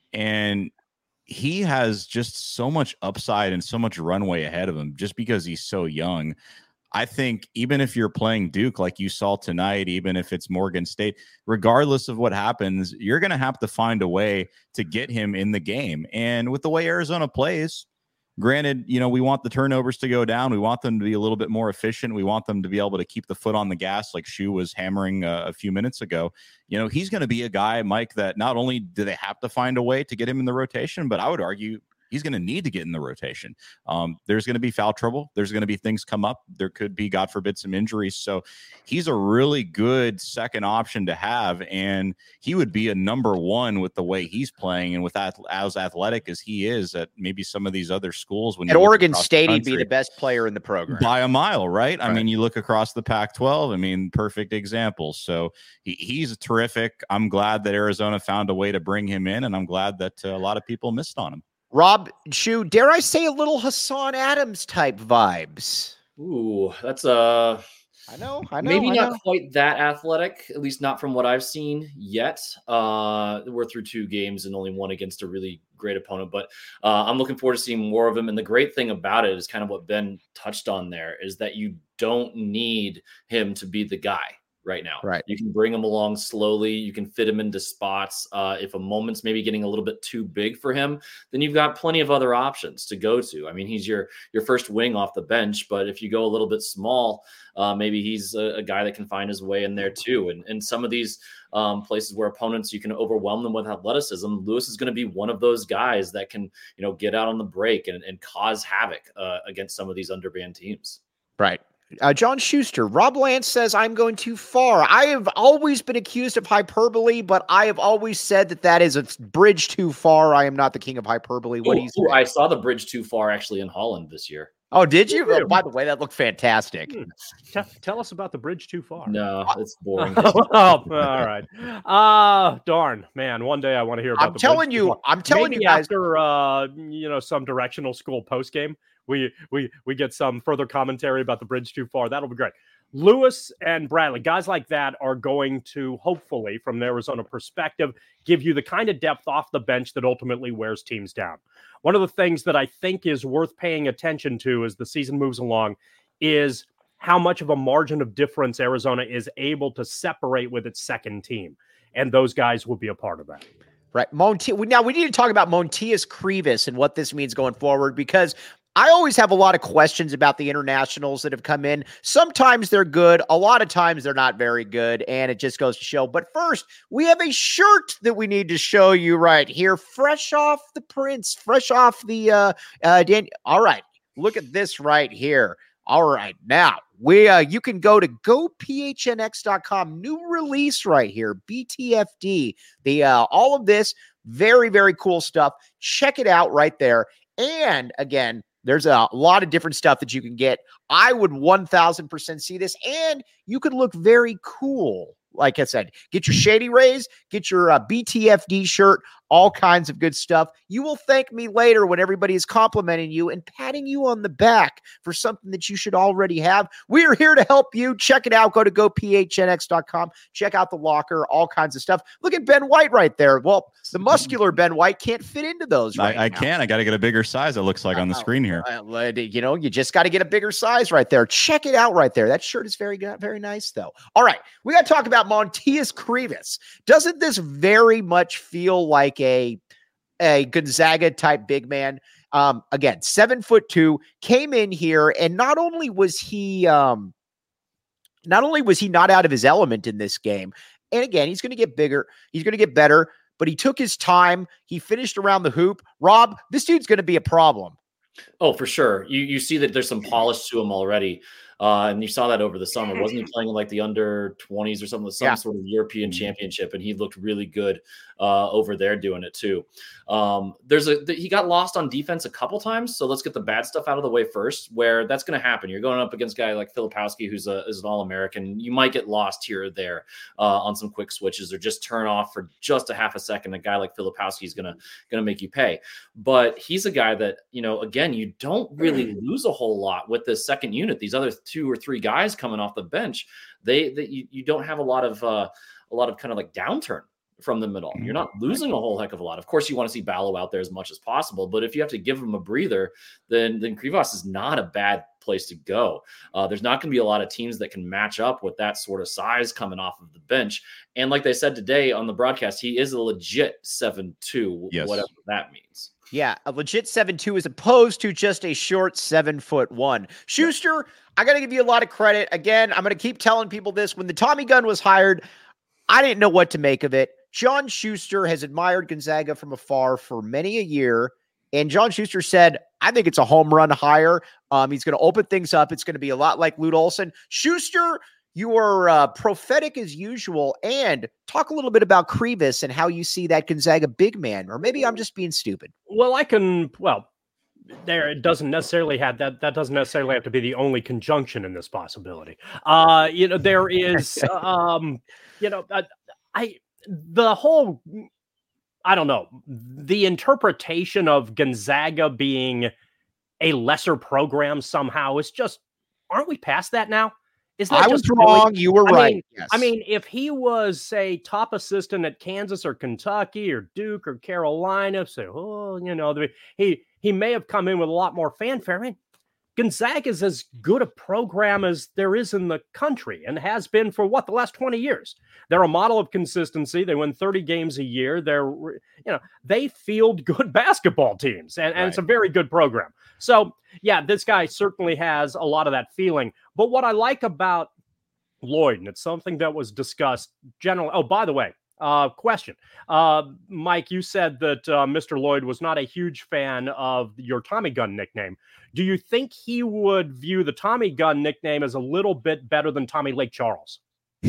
S4: and he has just so much upside and so much runway ahead of him just because he's so young. I think even if you're playing Duke like you saw tonight, even if it's Morgan State, regardless of what happens, you're going to have to find a way to get him in the game. And with the way Arizona plays, granted, you know, we want the turnovers to go down. We want them to be a little bit more efficient. We want them to be able to keep the foot on the gas like Shu was hammering uh, a few minutes ago. You know, he's going to be a guy, Mike, that not only do they have to find a way to get him in the rotation, but I would argue he's going to need to get in the rotation. Um, there's going to be foul trouble. There's going to be things come up. There could be, God forbid, some injuries. So he's a really good second option to have. And he would be a number one with the way he's playing and with that as athletic as he is at maybe some of these other schools. When
S1: at Oregon State, he'd be the best player in the program
S4: by a mile, right?
S1: right?
S4: I mean, you look across the Pac twelve. I mean, perfect example. So he, he's terrific. I'm glad that Arizona found a way to bring him in, and I'm glad that uh, a lot of people missed on him.
S1: Rob, Shu, dare I say a little Hassan Adams type vibes?
S2: Ooh, that's a. Uh,
S1: I know, I know.
S2: Maybe
S1: I
S2: not
S1: know.
S2: quite that athletic, at least not from what I've seen yet. Uh, we're through two games and only one against a really great opponent, but uh, I'm looking forward to seeing more of him. And the great thing about it is kind of what Ben touched on there is that you don't need him to be the guy right now.
S1: Right.
S2: You can bring him along slowly. You can fit him into spots. Uh, if a moment's maybe getting a little bit too big for him, then you've got plenty of other options to go to. I mean, he's your, your first wing off the bench, but if you go a little bit small, uh, maybe he's a, a guy that can find his way in there too. And, and some of these um, places where opponents, you can overwhelm them with athleticism. Lewis is going to be one of those guys that can, you know, get out on the break and, and cause havoc uh, against some of these undermanned teams.
S1: Right. Uh, John Schuster, Rob Lance says, I'm going too far. I have always been accused of hyperbole, but I have always said that that is a bridge too far. I am not the king of hyperbole. What
S2: Ooh,
S1: do you say?
S2: I saw the bridge too far actually in Holland this year.
S1: Oh, did you? Oh, by the way, that looked fantastic.
S3: Hmm. T- tell us about the bridge too far.
S2: No, it's boring.
S3: oh, all right. Uh, darn, man. One day I want to hear about
S1: I'm
S3: the
S1: telling
S3: bridge
S1: you,
S3: too far.
S1: I'm telling
S3: Maybe
S1: you guys.
S3: after, uh, you know, some directional school post game, we, we, we get some further commentary about the bridge too far. That'll be great. Lewis and Bradley, guys like that are going to, hopefully, from an Arizona perspective, give you the kind of depth off the bench that ultimately wears teams down. One of the things that I think is worth paying attention to as the season moves along is how much of a margin of difference Arizona is able to separate with its second team. And those guys will be a part of that.
S1: Right. Monti- now, we need to talk about Montias Krivas and what this means going forward, because I always have a lot of questions about the internationals that have come in. Sometimes they're good. A lot of times they're not very good, and it just goes to show. But first, we have a shirt that we need to show you right here, fresh off the prints, fresh off the uh, uh Dan- all right, look at this right here. All right, now we uh, you can go to go P H N X dot com. New release right here, B T F D. The uh, all of this very very cool stuff. Check it out right there. And again, there's a lot of different stuff that you can get. I would one thousand percent see this, and you could look very cool. Like I said, get your Shady Rays, get your uh, B T F D shirt, all kinds of good stuff. You will thank me later when everybody is complimenting you and patting you on the back for something that you should already have. We are here to help you. Check it out. Go to go P H N X dot com. Check out the locker, all kinds of stuff. Look at Ben White right there. Well, the muscular Ben White can't fit into those right
S4: I, I
S1: now.
S4: can. I got to get a bigger size, it looks like, on the screen here.
S1: Uh, you know, you just got to get a bigger size right there. Check it out right there. That shirt is very good, very nice, though. All right, we got to talk about Montias Krivas. Doesn't this very much feel like a a Gonzaga type big man? Um, again, seven foot two, came in here, and not only was he, um, not only was he not out of his element in this game, and again, he's going to get bigger, he's going to get better, but he took his time. He finished around the hoop. Rob, this dude's going to be a problem.
S2: Oh, for sure. You you see that there's some polish to him already. Uh, and you saw that over the summer. Wasn't he playing in like the under twenties or something, some
S1: Yeah.
S2: sort of European championship? And he looked really good uh, over there doing it too. Um, there's a he got lost on defense a couple times. So let's get the bad stuff out of the way first, where that's going to happen. You're going up against a guy like Filipowski, who's a is an All-American. You might get lost here or there uh, on some quick switches, or just turn off for just a half a second. A guy like Filipowski is gonna gonna make you pay. But he's a guy that, you know, again, you don't really lose a whole lot with this second unit. These other two or three guys coming off the bench, they that you, you don't have a lot of uh, a lot of kind of like downturn from them at all. You're not losing a whole heck of a lot. Of course, you want to see Ballo out there as much as possible, but if you have to give him a breather, then then Krivas is not a bad place to go. Uh, there's not going to be a lot of teams that can match up with that sort of size coming off of the bench. And like they said today on the broadcast, he is a legit seven two,
S4: yes.
S2: whatever that means.
S1: Yeah, a legit seven two as opposed to just a short seven foot one. Schuster, I got to give you a lot of credit. Again, I'm going to keep telling people this. When the Tommy gun was hired, I didn't know what to make of it. John Schuster has admired Gonzaga from afar for many a year. And John Schuster said, I think it's a home run hire. Um, he's going to open things up. It's going to be a lot like Lute Olson. Schuster, you are uh, prophetic as usual. And talk a little bit about Krivas and how you see that Gonzaga big man. Or maybe I'm just being stupid.
S3: Well, I can, well, there it doesn't necessarily have that. That doesn't necessarily have to be the only conjunction in this possibility. Uh, you know, there is, um, you know, I, I the whole, I don't know, the interpretation of Gonzaga being a lesser program somehow is just, aren't we past that now? Is that
S1: I was wrong. You were
S3: I
S1: right.
S3: Mean,
S1: yes.
S3: I mean, if he was, say, top assistant at Kansas or Kentucky or Duke or Carolina, say, oh, you know, he he may have come in with a lot more fanfare. I mean, Gonzaga is as good a program as there is in the country and has been for what, the last twenty years. They're a model of consistency. They win thirty games a year. They're, you know, they field good basketball teams, and, and right. It's a very good program. So, yeah, this guy certainly has a lot of that feeling. But what I like about Lloyd, and it's something that was discussed generally. Oh, by the way, uh, question. Uh, Mike, you said that uh, Mister Lloyd was not a huge fan of your Tommy Gun nickname. Do you think he would view the Tommy Gun nickname as a little bit better than Tommy Lake Charles?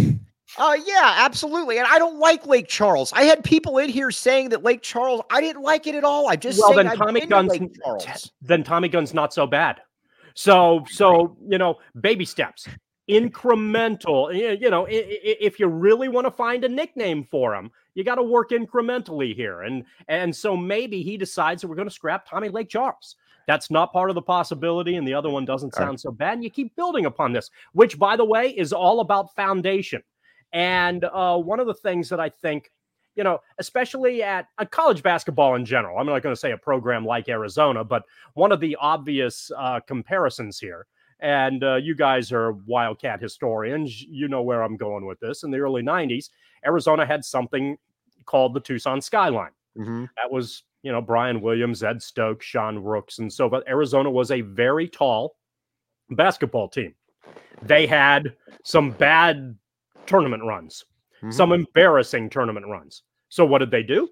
S1: Uh, yeah, absolutely. And I don't like Lake Charles. I had people in here saying that Lake Charles, I didn't like it at all. I just
S3: well,
S1: saying
S3: then Tommy
S1: I've
S3: Gun's
S1: Lake Charles.
S3: Then Tommy Gun's not so bad. So, so you know, baby steps, incremental. You know, if you really want to find a nickname for him, you got to work incrementally here. And and so maybe he decides that we're going to scrap Tommy Lake Charles. That's not part of the possibility, and the other one doesn't sound right. so bad. And you keep building upon this, which, by the way, is all about foundation. And uh, one of the things that I think, you know, especially at uh, college basketball in general, I'm not going to say a program like Arizona, but one of the obvious uh, comparisons here, and uh, you guys are Wildcat historians, you know where I'm going with this. In the early nineties, Arizona had something called the Tucson Skyline.
S1: Mm-hmm.
S3: That was, you know, Brian Williams, Ed Stokes, Sean Rooks, and so but Arizona was a very tall basketball team. They had some bad tournament runs, mm-hmm. some embarrassing tournament runs. So what did they do?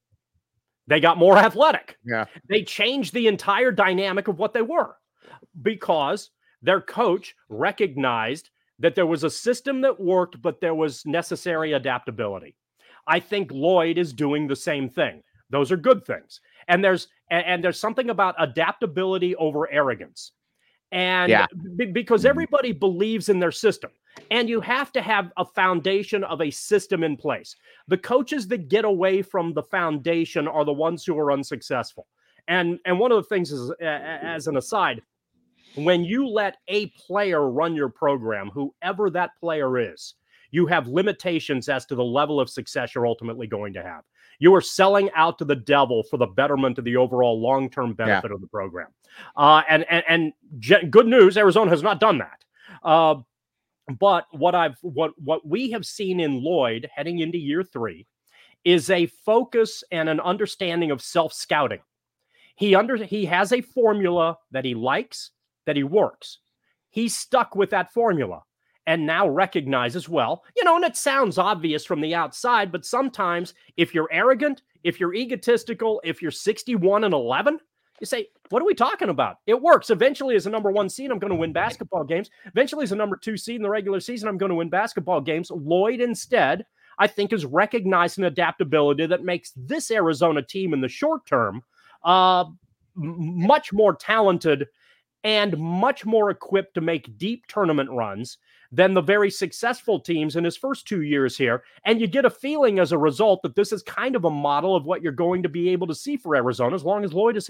S3: They got more athletic.
S1: Yeah.
S3: They changed the entire dynamic of what they were because their coach recognized that there was a system that worked, but there was necessary adaptability. I think Lloyd is doing the same thing. Those are good things. And there's and, and there's something about adaptability over arrogance. And
S1: yeah.
S3: b- because everybody believes in their system, and you have to have a foundation of a system in place. The coaches that get away from the foundation are the ones who are unsuccessful. And, and one of the things is, uh, as an aside, when you let a player run your program, whoever that player is, you have limitations as to the level of success you're ultimately going to have. You are selling out to the devil for the betterment of the overall long-term benefit yeah. of the program. Uh, and and, and ge- good news, Arizona has not done that. Uh, but what I've what what we have seen in Lloyd heading into year three is a focus and an understanding of self-scouting. He under he has a formula that he likes, that he works. He's stuck with that formula. And now recognizes, well, you know, and it sounds obvious from the outside, but sometimes if you're arrogant, if you're egotistical, if you're sixty-one and eleven, you say, what are we talking about? It works. Eventually, as a number one seed, I'm going to win basketball games. Eventually, as a number two seed in the regular season, I'm going to win basketball games. Lloyd, instead, I think, is recognizing adaptability that makes this Arizona team in the short term uh, m- much more talented and much more equipped to make deep tournament runs than the very successful teams in his first two years here. And you get a feeling as a result that this is kind of a model of what you're going to be able to see for Arizona as long as Lloyd is here.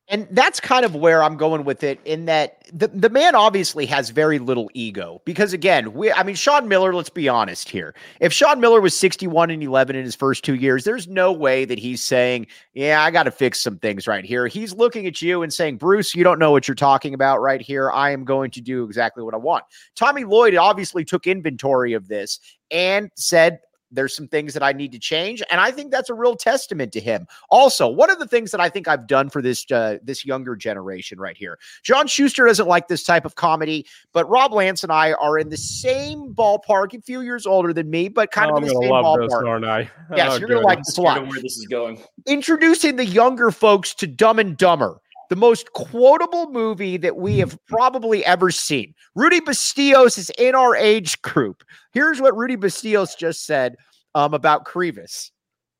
S1: And that's kind of where I'm going with it, in that the, the man obviously has very little ego because, again, we, I mean, Sean Miller, let's be honest here. If Sean Miller was sixty-one and eleven in his first two years, there's no way that he's saying, yeah, I got to fix some things right here. He's looking at you and saying, Bruce, you don't know what you're talking about right here. I am going to do exactly what I want. Tommy Lloyd obviously took inventory of this and said, there's some things that I need to change. And I think that's a real testament to him. Also, one of the things that I think I've done for this, uh, this younger generation right here, John Schuster doesn't like this type of comedy, but Rob Lance and I are in the same ballpark, a few years older than me, but kind
S3: oh,
S1: of in
S3: I'm
S1: the same
S3: love
S1: ballpark.
S3: This, aren't I?
S1: Yes,
S3: oh,
S1: you're going to like this a lot.
S2: Where this is going.
S1: Introducing the younger folks to Dumb and Dumber, the most quotable movie that we have probably ever seen. Rudy Bastillos is in our age group. Here's what Rudy Bastillos just said um, about Crevis.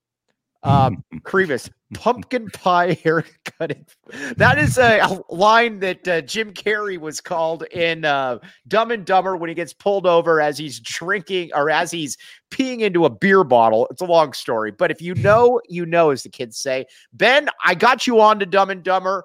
S1: Um, Crevis, pumpkin pie haircut. That is a, a line that uh, Jim Carrey was called in uh, Dumb and Dumber when he gets pulled over as he's drinking or as he's peeing into a beer bottle. It's a long story, but if you know, you know, as the kids say. Ben, I got you on to Dumb and Dumber.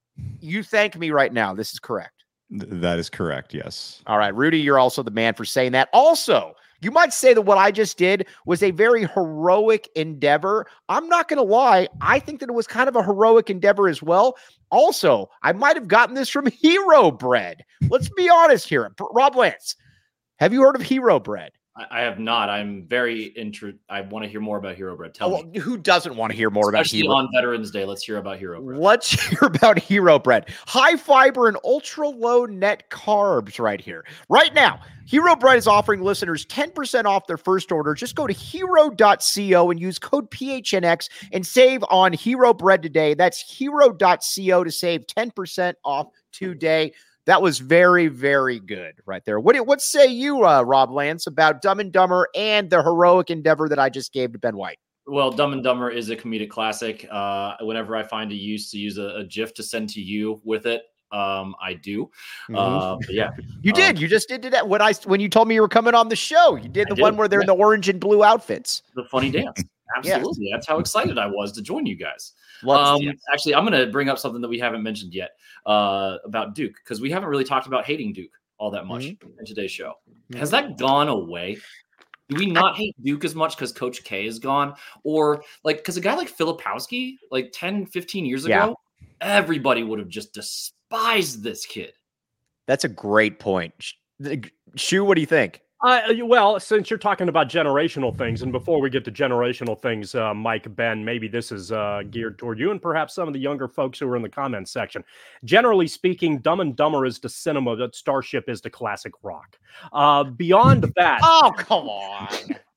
S1: You thank me right now. This is correct.
S4: That is correct. Yes.
S1: All right, Rudy, you're also the man for saying that. Also, you might say that what I just did was a very heroic endeavor. I'm not going to lie. I think that it was kind of a heroic endeavor as well. Also, I might have gotten this from Hero Bread. Let's be honest here. Rob Lance, have you heard of Hero Bread?
S2: I have not. I'm very interested. I want to hear more about Hero Bread. Tell
S1: oh,
S2: me.
S1: Who doesn't want to hear more
S2: Especially
S1: about Hero?
S2: on Veterans Day, let's hear about Hero Bread.
S1: Let's hear about Hero Bread. High fiber and ultra low net carbs right here. Right now, Hero Bread is offering listeners ten percent off their first order. Just go to hero dot co and use code P H N X and save on Hero Bread today. That's hero dot co to save ten percent off today. That was very, very good right there. What, what say you, uh, Rob Lance, about Dumb and Dumber and the heroic endeavor that I just gave to Ben White?
S2: Well, Dumb and Dumber is a comedic classic. Uh, whenever I find a use to use a, a GIF to send to you with it, um, I do.
S1: Mm-hmm.
S2: Uh, but yeah,
S1: you did.
S2: um,
S1: You just did that when I when you told me you were coming on the show. You did the
S2: did.
S1: one where they're
S2: yeah.
S1: in the orange and blue outfits.
S2: The funny dance. Absolutely. That's how excited I was to join you guys. Um, yes. Actually, I'm going to bring up something that we haven't mentioned yet uh, about Duke, because we haven't really talked about hating Duke all that much mm-hmm. in today's show. Mm-hmm. Has that gone away? Do we not hate Duke as much because Coach K is gone? Or like, because a guy like Filipowski, like ten, fifteen years ago, yeah. everybody would have just despised this kid.
S1: That's a great point. Shu, what do you think?
S3: Uh, well, since you're talking about generational things, and before we get to generational things, uh, Mike, Ben, maybe this is uh, geared toward you and perhaps some of the younger folks who are in the comments section. Generally speaking, Dumb and Dumber is the cinema that Starship is the classic rock. Uh, beyond that...
S1: Oh, come on.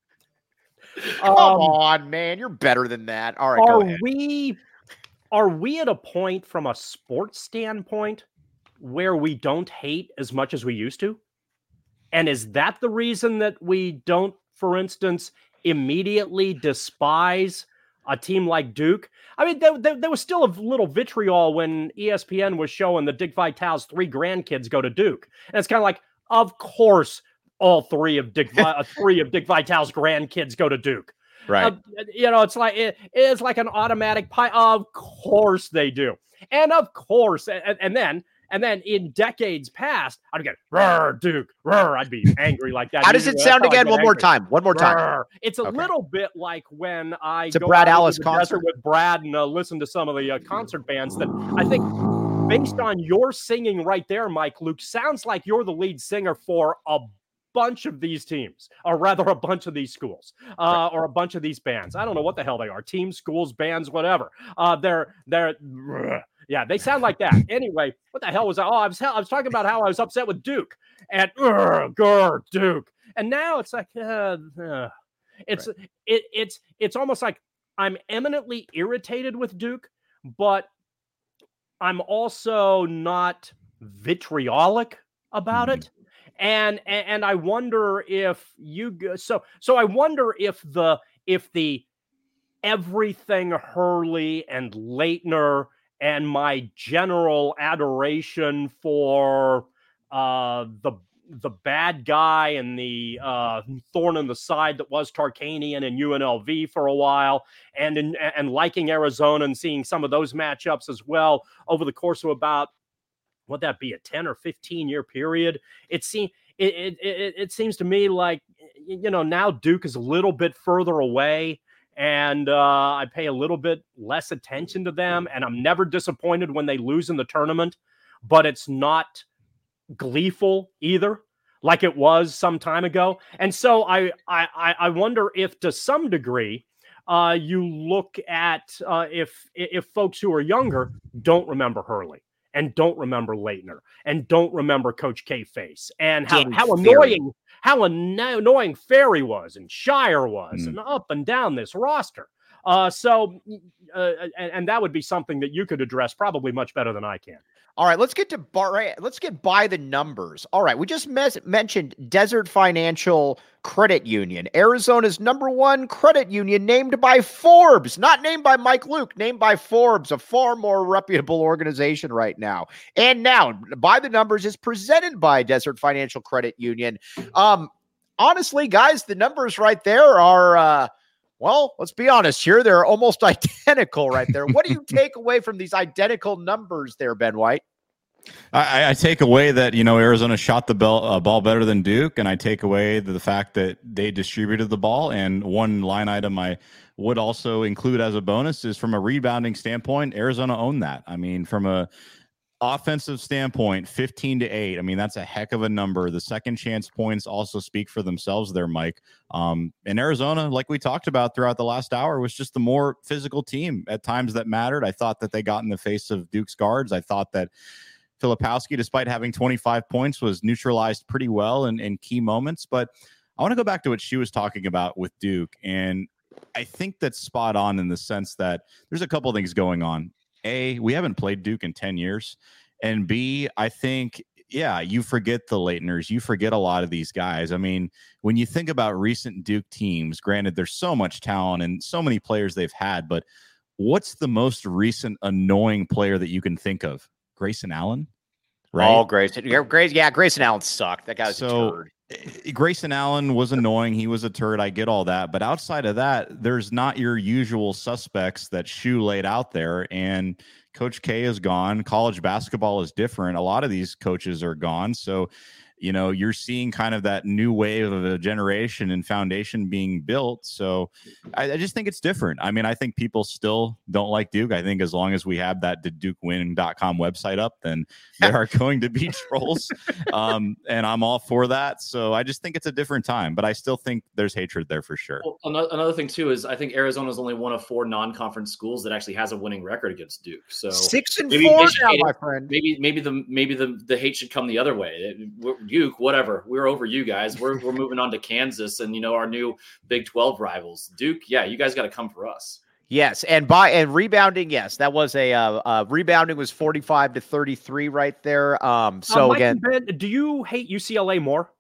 S1: come um, on, man. You're better than that. All right,
S3: are
S1: go ahead.
S3: We, are we at a point from a sports standpoint where we don't hate as much as we used to? And is that the reason that we don't, for instance, immediately despise a team like Duke? I mean, there, there, there was still a little vitriol when E S P N was showing that Dick Vitale's three grandkids go to Duke. And it's kind of like, of course, all three of Dick, uh, three of Dick Vitale's grandkids go to Duke.
S1: Right.
S3: Uh, you know, it's like, it, it's like an automatic pie. Of course they do. And of course, and, and then, And then in decades past, I'd get, "Roar, Duke, roar." I'd be angry like that.
S1: How does it sound again? One more time. One more time.
S3: Roar. It's a
S1: okay.
S3: little bit like when I
S1: it's
S3: go
S1: a Brad
S3: out
S1: Alice
S3: the
S1: concert
S3: with Brad and uh, listen to some of the uh, concert bands that I think, based on your singing right there, Mike Luke, sounds like you're the lead singer for a bunch of these teams, or rather a bunch of these schools, uh, right. or a bunch of these bands. I don't know what the hell they are. Teams, schools, bands, whatever. Uh, they're, they're, yeah, they sound like that. Anyway, what the hell was I? Oh, I was, I was talking about how I was upset with Duke and grr, Duke. And now it's like, uh, uh, it's, right. it, it's, it's almost like I'm eminently irritated with Duke, but I'm also not vitriolic about mm-hmm. it. And, and and I wonder if you so so I wonder if the if the everything Hurley and Leitner and my general adoration for uh, the the bad guy and the uh, thorn in the side that was Tarkanian and U N L V for a while, and in, and liking Arizona and seeing some of those matchups as well over the course of about, would that be a ten or fifteen year period? It seems it, it it it seems to me like, you know, now Duke is a little bit further away, and uh, I pay a little bit less attention to them, and I'm never disappointed when they lose in the tournament, but it's not gleeful either, like it was some time ago. And so I I I wonder if to some degree uh, you look at uh, if if folks who are younger don't remember Hurley and don't remember Leitner and don't remember Coach K Face and how, how annoying how annoying Ferry was and Shire was mm. and up and down this roster. Uh, so uh, and, and that would be something that you could address probably much better than I can.
S1: All right, let's get to bar. Right, let's get by the numbers. All right, we just mes- mentioned Desert Financial Credit Union, Arizona's number one credit union, named by Forbes, not named by Mike Luke, named by Forbes, a far more reputable organization right now. And now, by the numbers is presented by Desert Financial Credit Union. Um, honestly, guys, the numbers right there are. Uh, Well, let's be honest here. They're almost identical right there. What do you take away from these identical numbers there, Ben White?
S4: I, I take away that, you know, Arizona shot the ball, uh, ball better than Duke, and I take away the, the fact that they distributed the ball. And one line item I would also include as a bonus is from a rebounding standpoint, Arizona owned that. I mean, from a offensive standpoint, fifteen to eight. I mean, that's a heck of a number. The second chance points also speak for themselves there, Mike. Um, and Arizona, like we talked about throughout the last hour, was just the more physical team at times that mattered. I thought that they got in the face of Duke's guards. I thought that Filipowski, despite having twenty-five points, was neutralized pretty well in, in key moments. But I want to go back to what she was talking about with Duke. And I think that's spot on in the sense that there's a couple things going on. A, we haven't played Duke in ten years. And B, I think, yeah, you forget the Leitners. You forget a lot of these guys. I mean, when you think about recent Duke teams, granted, there's so much talent and so many players they've had, but what's the most recent annoying player that you can think of? Grayson Allen? Right?
S1: Oh, Grayson. Yeah, Grayson, yeah, Grayson Allen sucked. That guy was
S4: so,
S1: a turd.
S4: Grayson Allen was annoying. He was a turd. I get all that. But outside of that, there's not your usual suspects that Shu laid out there. And Coach K is gone. College basketball is different. A lot of these coaches are gone. So, you know, you're seeing kind of that new wave of a generation and foundation being built. So I, I just think it's different. I mean, I think people still don't like Duke. I think as long as we have that did duke win dot com website up, then there are going to be trolls. Um, and I'm all for that. So I just think it's a different time, but I still think there's hatred there for sure.
S2: Well, another thing too is I think Arizona is only one of four non-conference schools that actually has a winning record against Duke. So
S1: six and four now, my friend.
S2: Maybe maybe the maybe the, the hate should come the other way. Duke, whatever. We're over you guys. We're we're moving on to Kansas and, you know, our new Big twelve rivals. Duke, yeah, you guys got to come for us.
S1: Yes, and by and rebounding, yes, that was a uh, uh, rebounding was forty-five to thirty-three right there. Um, so
S3: uh, Mike
S1: again,
S3: Ben, do you hate U C L A more?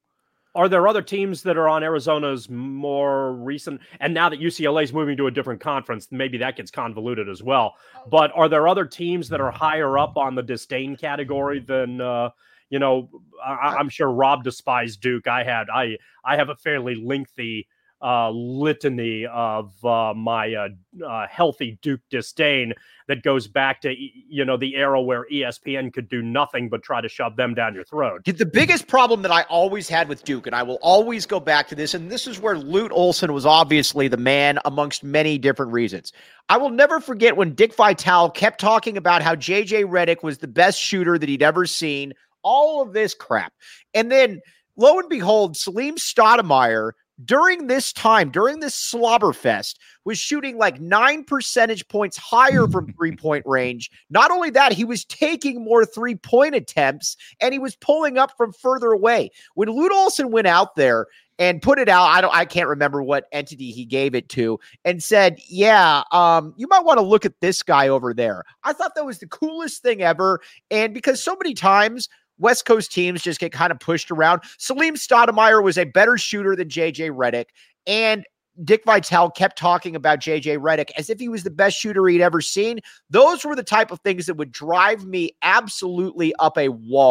S3: Are there other teams that are on Arizona's more recent? And now that U C L A is moving to a different conference, maybe that gets convoluted as well. But are there other teams that are higher up on the disdain category than? Uh, You know, I, I'm sure Rob despised Duke. I had, I, I have a fairly lengthy uh, litany of uh, my uh, uh, healthy Duke disdain that goes back to, you know, the era where E S P N could do nothing but try to shove them down your throat.
S1: The biggest problem that I always had with Duke, and I will always go back to this, and this is where Lute Olson was obviously the man amongst many different reasons. I will never forget when Dick Vitale kept talking about how J J Redick was the best shooter that he'd ever seen. All of this crap. And then, lo and behold, Salim Stoudemire, during this time, during this slobberfest, was shooting like nine percentage points higher from three-point range. Not only that, he was taking more three-point attempts, and he was pulling up from further away. When Lute Olson went out there and put it out, I don't, I can't remember what entity he gave it to, and said, yeah, um, you might want to look at this guy over there. I thought that was the coolest thing ever, and because so many times West Coast teams just get kind of pushed around. Salim Stoudemire was a better shooter than J J Redick, and Dick Vitale kept talking about J J Redick as if he was the best shooter he'd ever seen. Those were the type of things that would drive me absolutely up a wall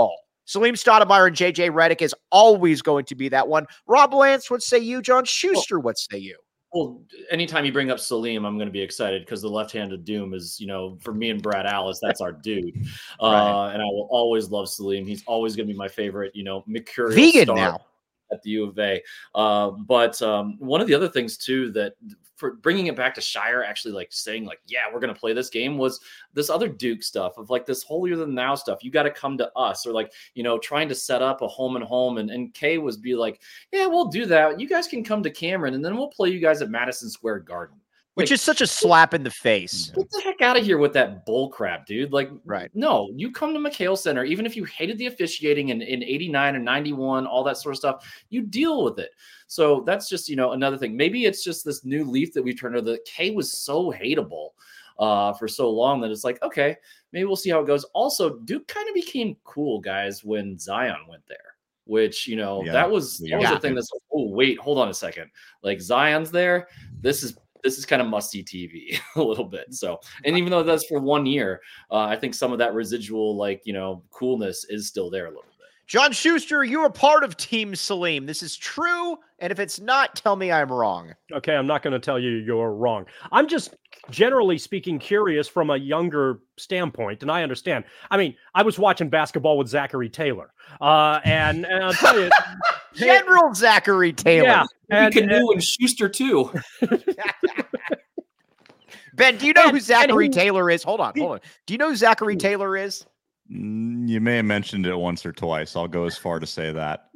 S1: Salim Stoudemire and J J Redick is always going to be that one. Rob Lance, what say you? John Schuster, what say you?
S2: Well, anytime you bring up Salim, I'm going to be excited because the left-handed doom is, you know, for me and Brad Alice, that's our dude. Uh, right. And I will always love Salim. He's always going to be my favorite, you know, mercurial
S1: Vegan
S2: star
S1: now
S2: at the U of A. Uh, but um, one of the other things too, that for bringing it back to Shire, actually like saying like, yeah, we're going to play this game, was this other Duke stuff of like this holier than thou stuff. You got to come to us, or like, you know, trying to set up a home and home. And, and Kay was be like, yeah, we'll do that. You guys can come to Cameron and then we'll play you guys at Madison Square Garden.
S1: Which
S2: like,
S1: is such a slap in the face.
S2: Get the heck out of here with that bull crap, dude. Like,
S1: right.
S2: No, you come to McHale Center, even if you hated the officiating in, in eighty-nine and ninety-one, all that sort of stuff, you deal with it. So that's just, you know, another thing. Maybe it's just this new leaf that we've turned over. The K was so hateable uh, for so long that it's like, okay, maybe we'll see how it goes. Also, Duke kind of became cool, guys, when Zion went there. Which, you know, yeah. that was, that was
S1: yeah.
S2: the thing that's like, oh, wait, hold on a second. Like, Zion's there. This is This is kind of must-see T V a little bit. So, and even though that's for one year, uh, I think some of that residual, like, you know, coolness is still there a little bit.
S1: John Schuster, you are part of Team Salim. This is true. And if it's not, tell me I'm wrong.
S3: Okay, I'm not going to tell you you're wrong. I'm just generally speaking curious from a younger standpoint, and I understand. I mean, I was watching basketball with Zachary Taylor, uh, and, and I'll tell you,
S1: General Zachary Taylor.
S3: Yeah,
S2: and Canoe and, and Schuster too.
S1: Ben, do you know and, who Zachary he, Taylor is? Hold on, hold on. Do you know who Zachary Taylor is?
S4: You may have mentioned it once or twice. I'll go as far to say that.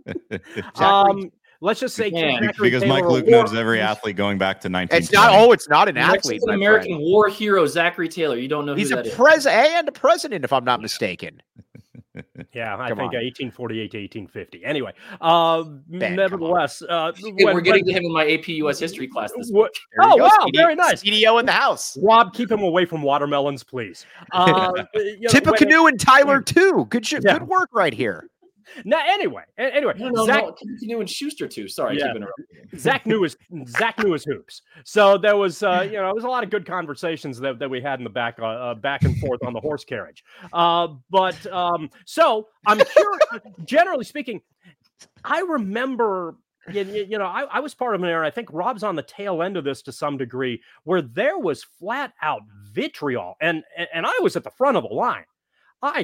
S3: um, let's just say
S4: because Mike Luke knows every athlete going back to nineteen.
S1: It's not. Oh, it's not an athlete.
S2: An American friend. War hero, Zachary Taylor. You don't know.
S1: He's
S2: who
S1: a
S2: that
S1: president and a president, if I'm not mistaken.
S3: Yeah, I come think on. eighteen forty-eight to eighteen fifty. Anyway, uh, ben, nevertheless, uh,
S2: when, we're getting when, to him in my A P U S history class this
S3: what, week. Oh, wow, C D, very nice.
S1: C D O in the house.
S3: Rob, keep him away from watermelons, please. Uh,
S1: you know, Tip of Canoe and Tyler, too. Good sh- yeah. good work right here.
S3: Now, anyway, anyway,
S2: no, no,
S3: Zach
S2: no, Canoe and Schuster too. Sorry,
S3: yeah.
S2: I keep interrupting.
S3: Zach knew his Zach knew his hoops. So there was, uh, you know, there was a lot of good conversations that, that we had in the back, uh, uh, back and forth on the horse carriage. Uh, but um, so I'm curious. Generally speaking, I remember. You, you know, I, I was part of an era. I think Rob's on the tail end of this to some degree, where there was flat out vitriol, and and I was at the front of the line. I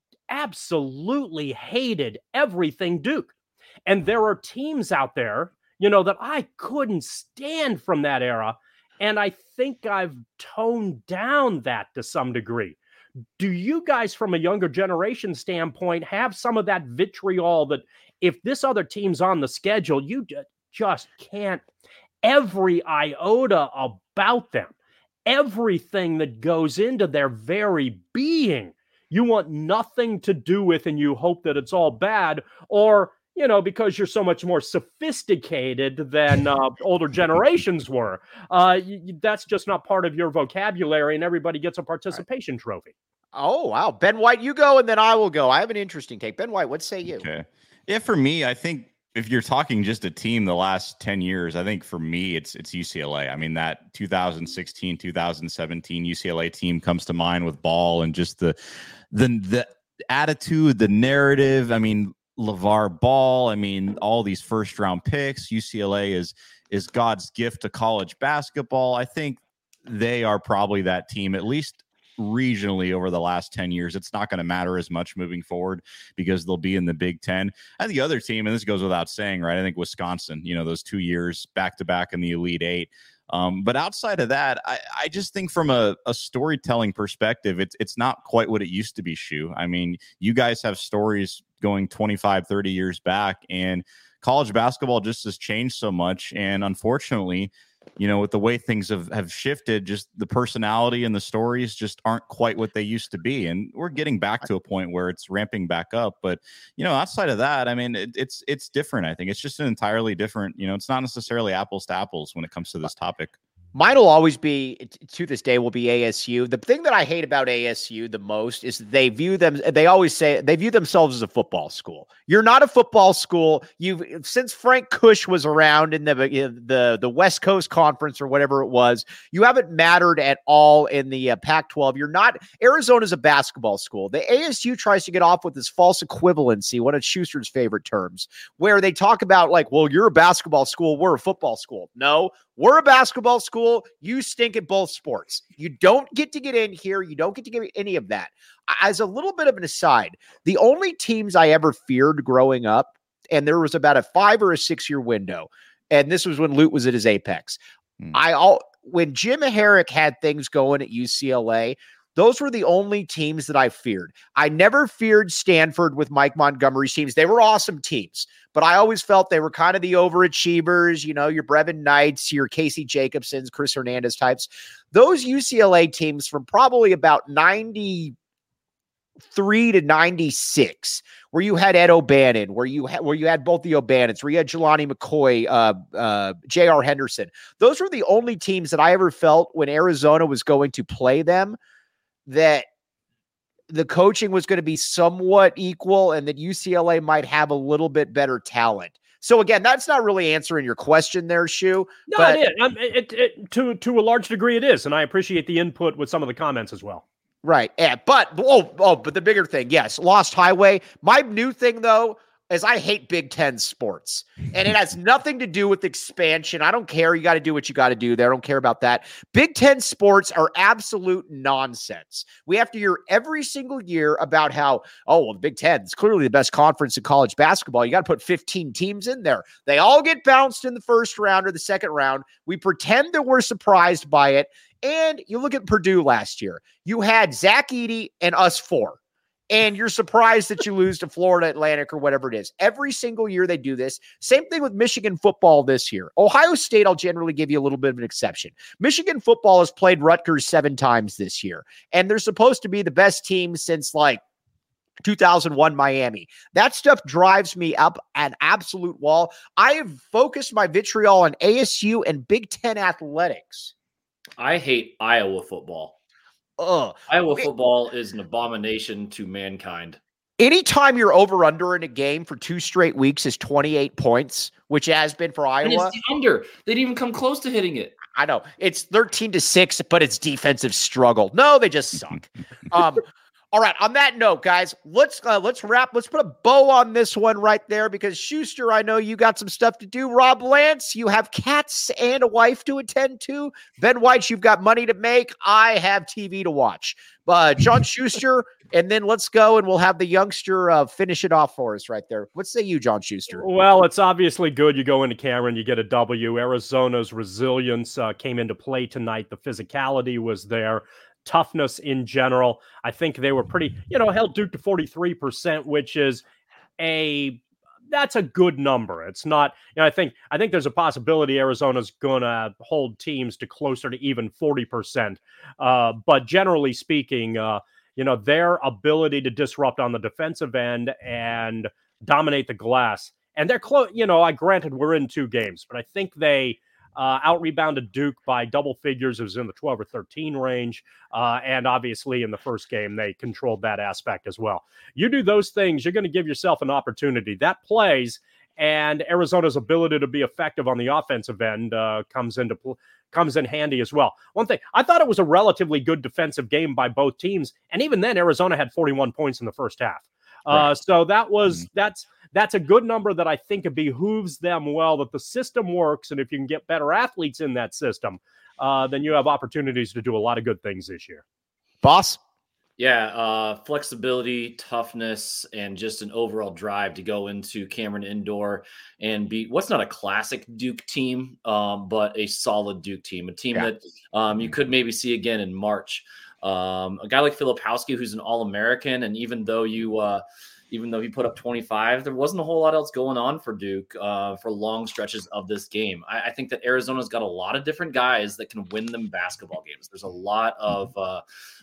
S3: absolutely hated everything Duke. And there are teams out there, you know, that I couldn't stand from that era. And I think I've toned down that to some degree. Do you guys, from a younger generation standpoint, have some of that vitriol that if this other team's on the schedule, you just can't, every iota about them, everything that goes into their very being, you want nothing to do with, and you hope that it's all bad, or, you know, because you're so much more sophisticated than uh, older generations were. Uh, you, that's just not part of your vocabulary, and everybody gets a participation right. trophy.
S1: Oh, wow. Ben White, you go, and then I will go. I have an interesting take. Ben White, what say you?
S4: Okay. Yeah, for me, I think if you're talking just a team the last ten years, I think for me, it's it's U C L A. I mean, that two thousand sixteen, two thousand seventeen U C L A team comes to mind with Ball and just the the the attitude, the narrative. I mean, LeVar Ball. I mean, all these first round picks. U C L A is is God's gift to college basketball. I think they are probably that team, at least regionally over the last ten years. It's not going to matter as much moving forward because they'll be in the Big Ten. And the other team, and this goes without saying, right? I think Wisconsin, you know, those two years back to back in the Elite Eight. Um, but outside of that, I, I just think from a, a storytelling perspective, it's it's not quite what it used to be, Shu. I mean, you guys have stories going twenty-five, thirty years back, and college basketball just has changed so much. And unfortunately, you know, with the way things have, have shifted, just the personality and the stories just aren't quite what they used to be. And we're getting back to a point where it's ramping back up. But, you know, outside of that, I mean, it, it's it's different. I think it's just an entirely different, you know, it's not necessarily apples to apples when it comes to this topic.
S1: Mine will always be, to this day, will be A S U. The thing that I hate about A S U the most is they view them, they always say, they view themselves as a football school. You're not a football school. You've, since Frank Kush was around in the, the, the West Coast Conference or whatever it was, you haven't mattered at all in the uh, Pac twelve. You're not, Arizona's a basketball school. The A S U tries to get off with this false equivalency, one of Schuster's favorite terms, where they talk about like, well, you're a basketball school, we're a football school. No, we're a basketball school. You stink at both sports. You don't get to get in here. You don't get to get any of that. As a little bit of an aside, the only teams I ever feared growing up, and there was about a five or a six year window, and this was when Lute was at his apex. Hmm. I all when Jim Herrick had things going at U C L A, those were the only teams that I feared. I never feared Stanford with Mike Montgomery's teams. They were awesome teams, but I always felt they were kind of the overachievers, you know, your Brevin Knights, your Casey Jacobsons, Chris Hernandez types. Those U C L A teams from probably about ninety-three to ninety-six, where you had Ed O'Bannon, where you had where you had both the O'Bannons, where you had Jelani McCoy, uh, uh, J R Henderson. Those were the only teams that I ever felt when Arizona was going to play them that the coaching was going to be somewhat equal and that U C L A might have a little bit better talent. So again, that's not really answering your question there, Shu.
S3: No,
S1: but
S3: it is. Um, it, it, to, to a large degree it is. And I appreciate the input with some of the comments as well.
S1: Right. Yeah. But, oh, oh, but the bigger thing, yes, Lost Highway. My new thing though, is I hate Big Ten sports, and it has nothing to do with expansion. I don't care. You got to do what you got to do there. I don't care about that. Big Ten sports are absolute nonsense. We have to hear every single year about how, oh, well, the Big Ten is clearly the best conference in college basketball. You got to put fifteen teams in there. They all get bounced in the first round or the second round. We pretend that we're surprised by it. And you look at Purdue last year. You had Zach Edey and us four. And you're surprised that you lose to Florida Atlantic or whatever it is. Every single year they do this. Same thing with Michigan football this year. Ohio State, I'll generally give you a little bit of an exception. Michigan football has played Rutgers seven times this year. And they're supposed to be the best team since like two thousand one Miami. That stuff drives me up an absolute wall. I have focused my vitriol on A S U and Big Ten athletics.
S2: I hate Iowa football.
S1: Ugh.
S2: Iowa football is an abomination to mankind.
S1: Anytime you're over under in a game for two straight weeks is twenty-eight points, which has been for Iowa.
S2: And it's the under. They didn't even come close to hitting it.
S1: I know. It's thirteen to six, but it's defensive struggle. No, they just suck. um, all right. On that note, guys, let's uh, let's wrap. Let's put a bow on this one right there because Schuster, I know you got some stuff to do. Rob Lance, you have cats and a wife to attend to. Ben White, you've got money to make. I have T V to watch. Uh, John Schuster, and then let's go and we'll have the youngster uh, finish it off for us right there. What say you, John Schuster?
S3: Well, it's obviously good. You go into Cameron, you get a W. Arizona's resilience uh, came into play tonight. The physicality was there. Toughness in general. I think they were pretty, you know, held Duke to forty-three percent, which is a, that's a good number. It's not, you know, I think, I think there's a possibility Arizona's going to hold teams to closer to even forty percent. Uh, but generally speaking, uh, you know, their ability to disrupt on the defensive end and dominate the glass. And they're close, you know, I granted we're in two games, but I think they, Uh, out-rebounded Duke by double figures. It was in the twelve or thirteen range. Uh, and obviously in the first game, they controlled that aspect as well. You do those things, you're going to give yourself an opportunity. That plays, and Arizona's ability to be effective on the offensive end uh, comes into pl- comes in handy as well. One thing, I thought it was a relatively good defensive game by both teams. And even then, Arizona had forty-one points in the first half. Uh, right. So that was, that's, that's a good number that I think it behooves them well, that the system works. And if you can get better athletes in that system, uh, then you have opportunities to do a lot of good things this year.
S1: Boss?
S2: Yeah, uh, flexibility, toughness, and just an overall drive to go into Cameron Indoor and beat what's not a classic Duke team, um, but a solid Duke team, a team yeah. that um, you could maybe see again in March. Um, a guy like Filipowski, who's an All-American, and even though you, uh, even though he put up twenty-five, there wasn't a whole lot else going on for Duke uh, for long stretches of this game. I, I think that Arizona's got a lot of different guys that can win them basketball games. There's a lot of uh,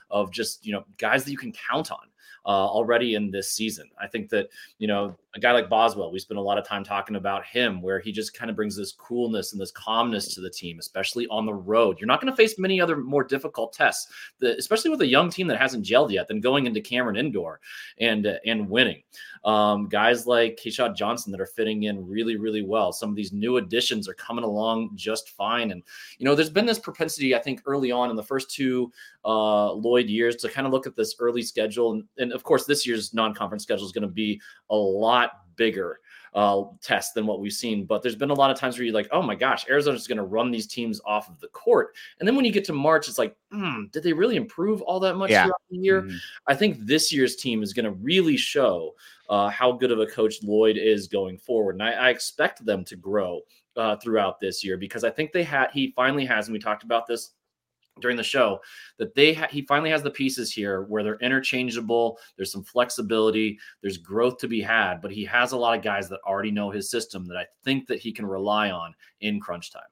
S2: of just, you know, guys that you can count on uh, already in this season. I think that, you know, a guy like Boswell, we spend a lot of time talking about him, where he just kind of brings this coolness and this calmness to the team, especially on the road. You're not going to face many other more difficult tests, that, especially with a young team that hasn't gelled yet, than going into Cameron Indoor and uh, and winning. Um, guys like Keshad Johnson that are fitting in really, really well. Some of these new additions are coming along just fine. And, you know, there's been this propensity, I think, early on in the first two uh, Lloyd years to kind of look at this early schedule. And, and of course, this year's non-conference schedule is going to be a lot bigger uh, test than what we've seen. But there's been a lot of times where you're like, oh my gosh, Arizona's going to run these teams off of the court. And then when you get to March, it's like, hmm, did they really improve all that much yeah. throughout the year? Mm-hmm. I think this year's team is going to really show uh, how good of a coach Lloyd is going forward. And I, I expect them to grow uh, throughout this year, because I think they had, he finally has, and we talked about this during the show, that they ha- he finally has the pieces here where they're interchangeable. There's some flexibility. There's growth to be had, but he has a lot of guys that already know his system that I think that he can rely on in crunch time.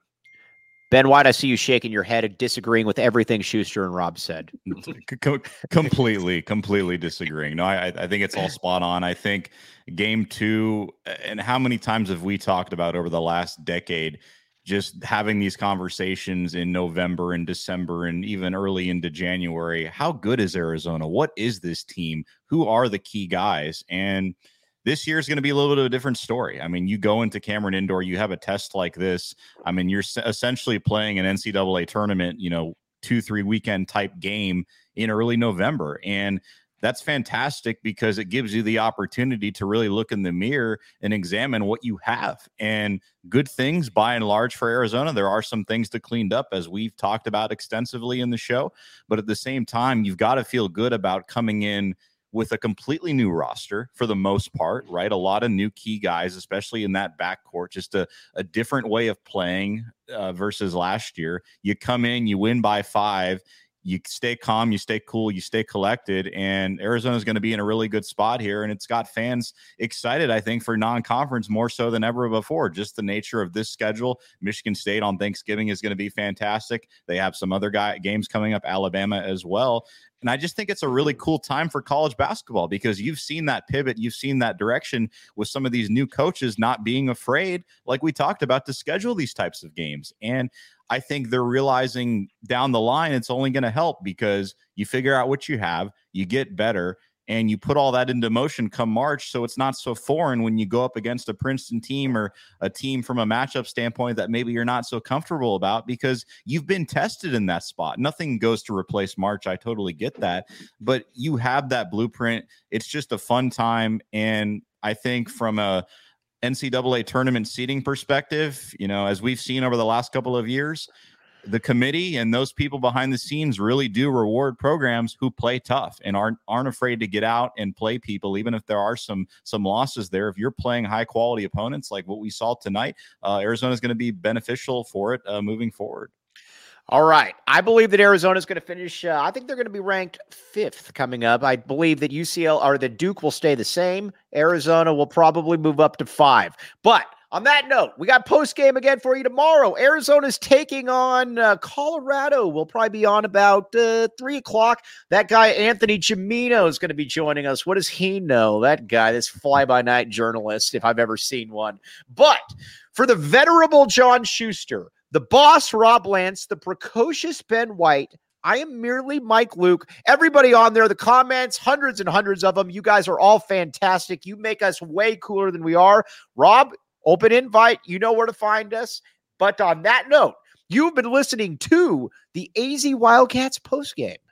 S1: Ben White, I see you shaking your head and disagreeing with everything Schuster and Rob said.
S4: C- completely, completely disagreeing. No, I, I think it's all spot on. I think game two, and how many times have we talked about over the last decade, just having these conversations in November and December and even early into January. How good is Arizona? What is this team? Who are the key guys? And this year is going to be a little bit of a different story. I mean, you go into Cameron Indoor, you have a test like this. I mean, you're essentially playing an N C double A tournament, you know, two, three weekend type game in early November. And that's fantastic, because it gives you the opportunity to really look in the mirror and examine what you have. And good things by and large for Arizona. There are some things to clean up, as we've talked about extensively in the show. But at the same time, you've got to feel good about coming in with a completely new roster for the most part, right? A lot of new key guys, especially in that backcourt, just a, a different way of playing uh, versus last year. You come in, you win by five. You stay calm, you stay cool, you stay collected, and Arizona is going to be in a really good spot here. And it's got fans excited, I think, for non-conference more so than ever before. Just the nature of this schedule. Michigan State on Thanksgiving is going to be fantastic. They have some other guy games coming up, Alabama as well. And I just think it's a really cool time for college basketball, because you've seen that pivot, you've seen that direction with some of these new coaches not being afraid, like we talked about, to schedule these types of games. And I think they're realizing down the line it's only going to help, because you figure out what you have, you get better, and you put all that into motion come March. So it's not so foreign when you go up against a Princeton team or a team from a matchup standpoint that maybe you're not so comfortable about, because you've been tested in that spot. Nothing goes to replace March. I totally get that. But you have that blueprint. It's just a fun time. And I think from a N C double A tournament seating perspective, you know, as we've seen over the last couple of years, the committee and those people behind the scenes really do reward programs who play tough and aren't aren't afraid to get out and play people, even if there are some some losses there. If you're playing high quality opponents like what we saw tonight, uh, Arizona is going to be beneficial for it uh, moving forward.
S1: All right. I believe that Arizona is going to finish. Uh, I think they're going to be ranked fifth coming up. I believe that U C L or the Duke will stay the same. Arizona will probably move up to five. But on that note, we got post game again for you tomorrow. Arizona's taking on uh, Colorado. We'll probably be on about uh, three o'clock. That guy, Anthony Gimino, is going to be joining us. What does he know? That guy, this fly-by-night journalist, if I've ever seen one. But for the venerable John Schuster, the boss, Rob Lance, the precocious Ben White, I am merely Mike Luke. Everybody on there, the comments, hundreds and hundreds of them. You guys are all fantastic. You make us way cooler than we are. Rob, open invite. You know where to find us. But on that note, you've been listening to the A Z Wildcats postgame.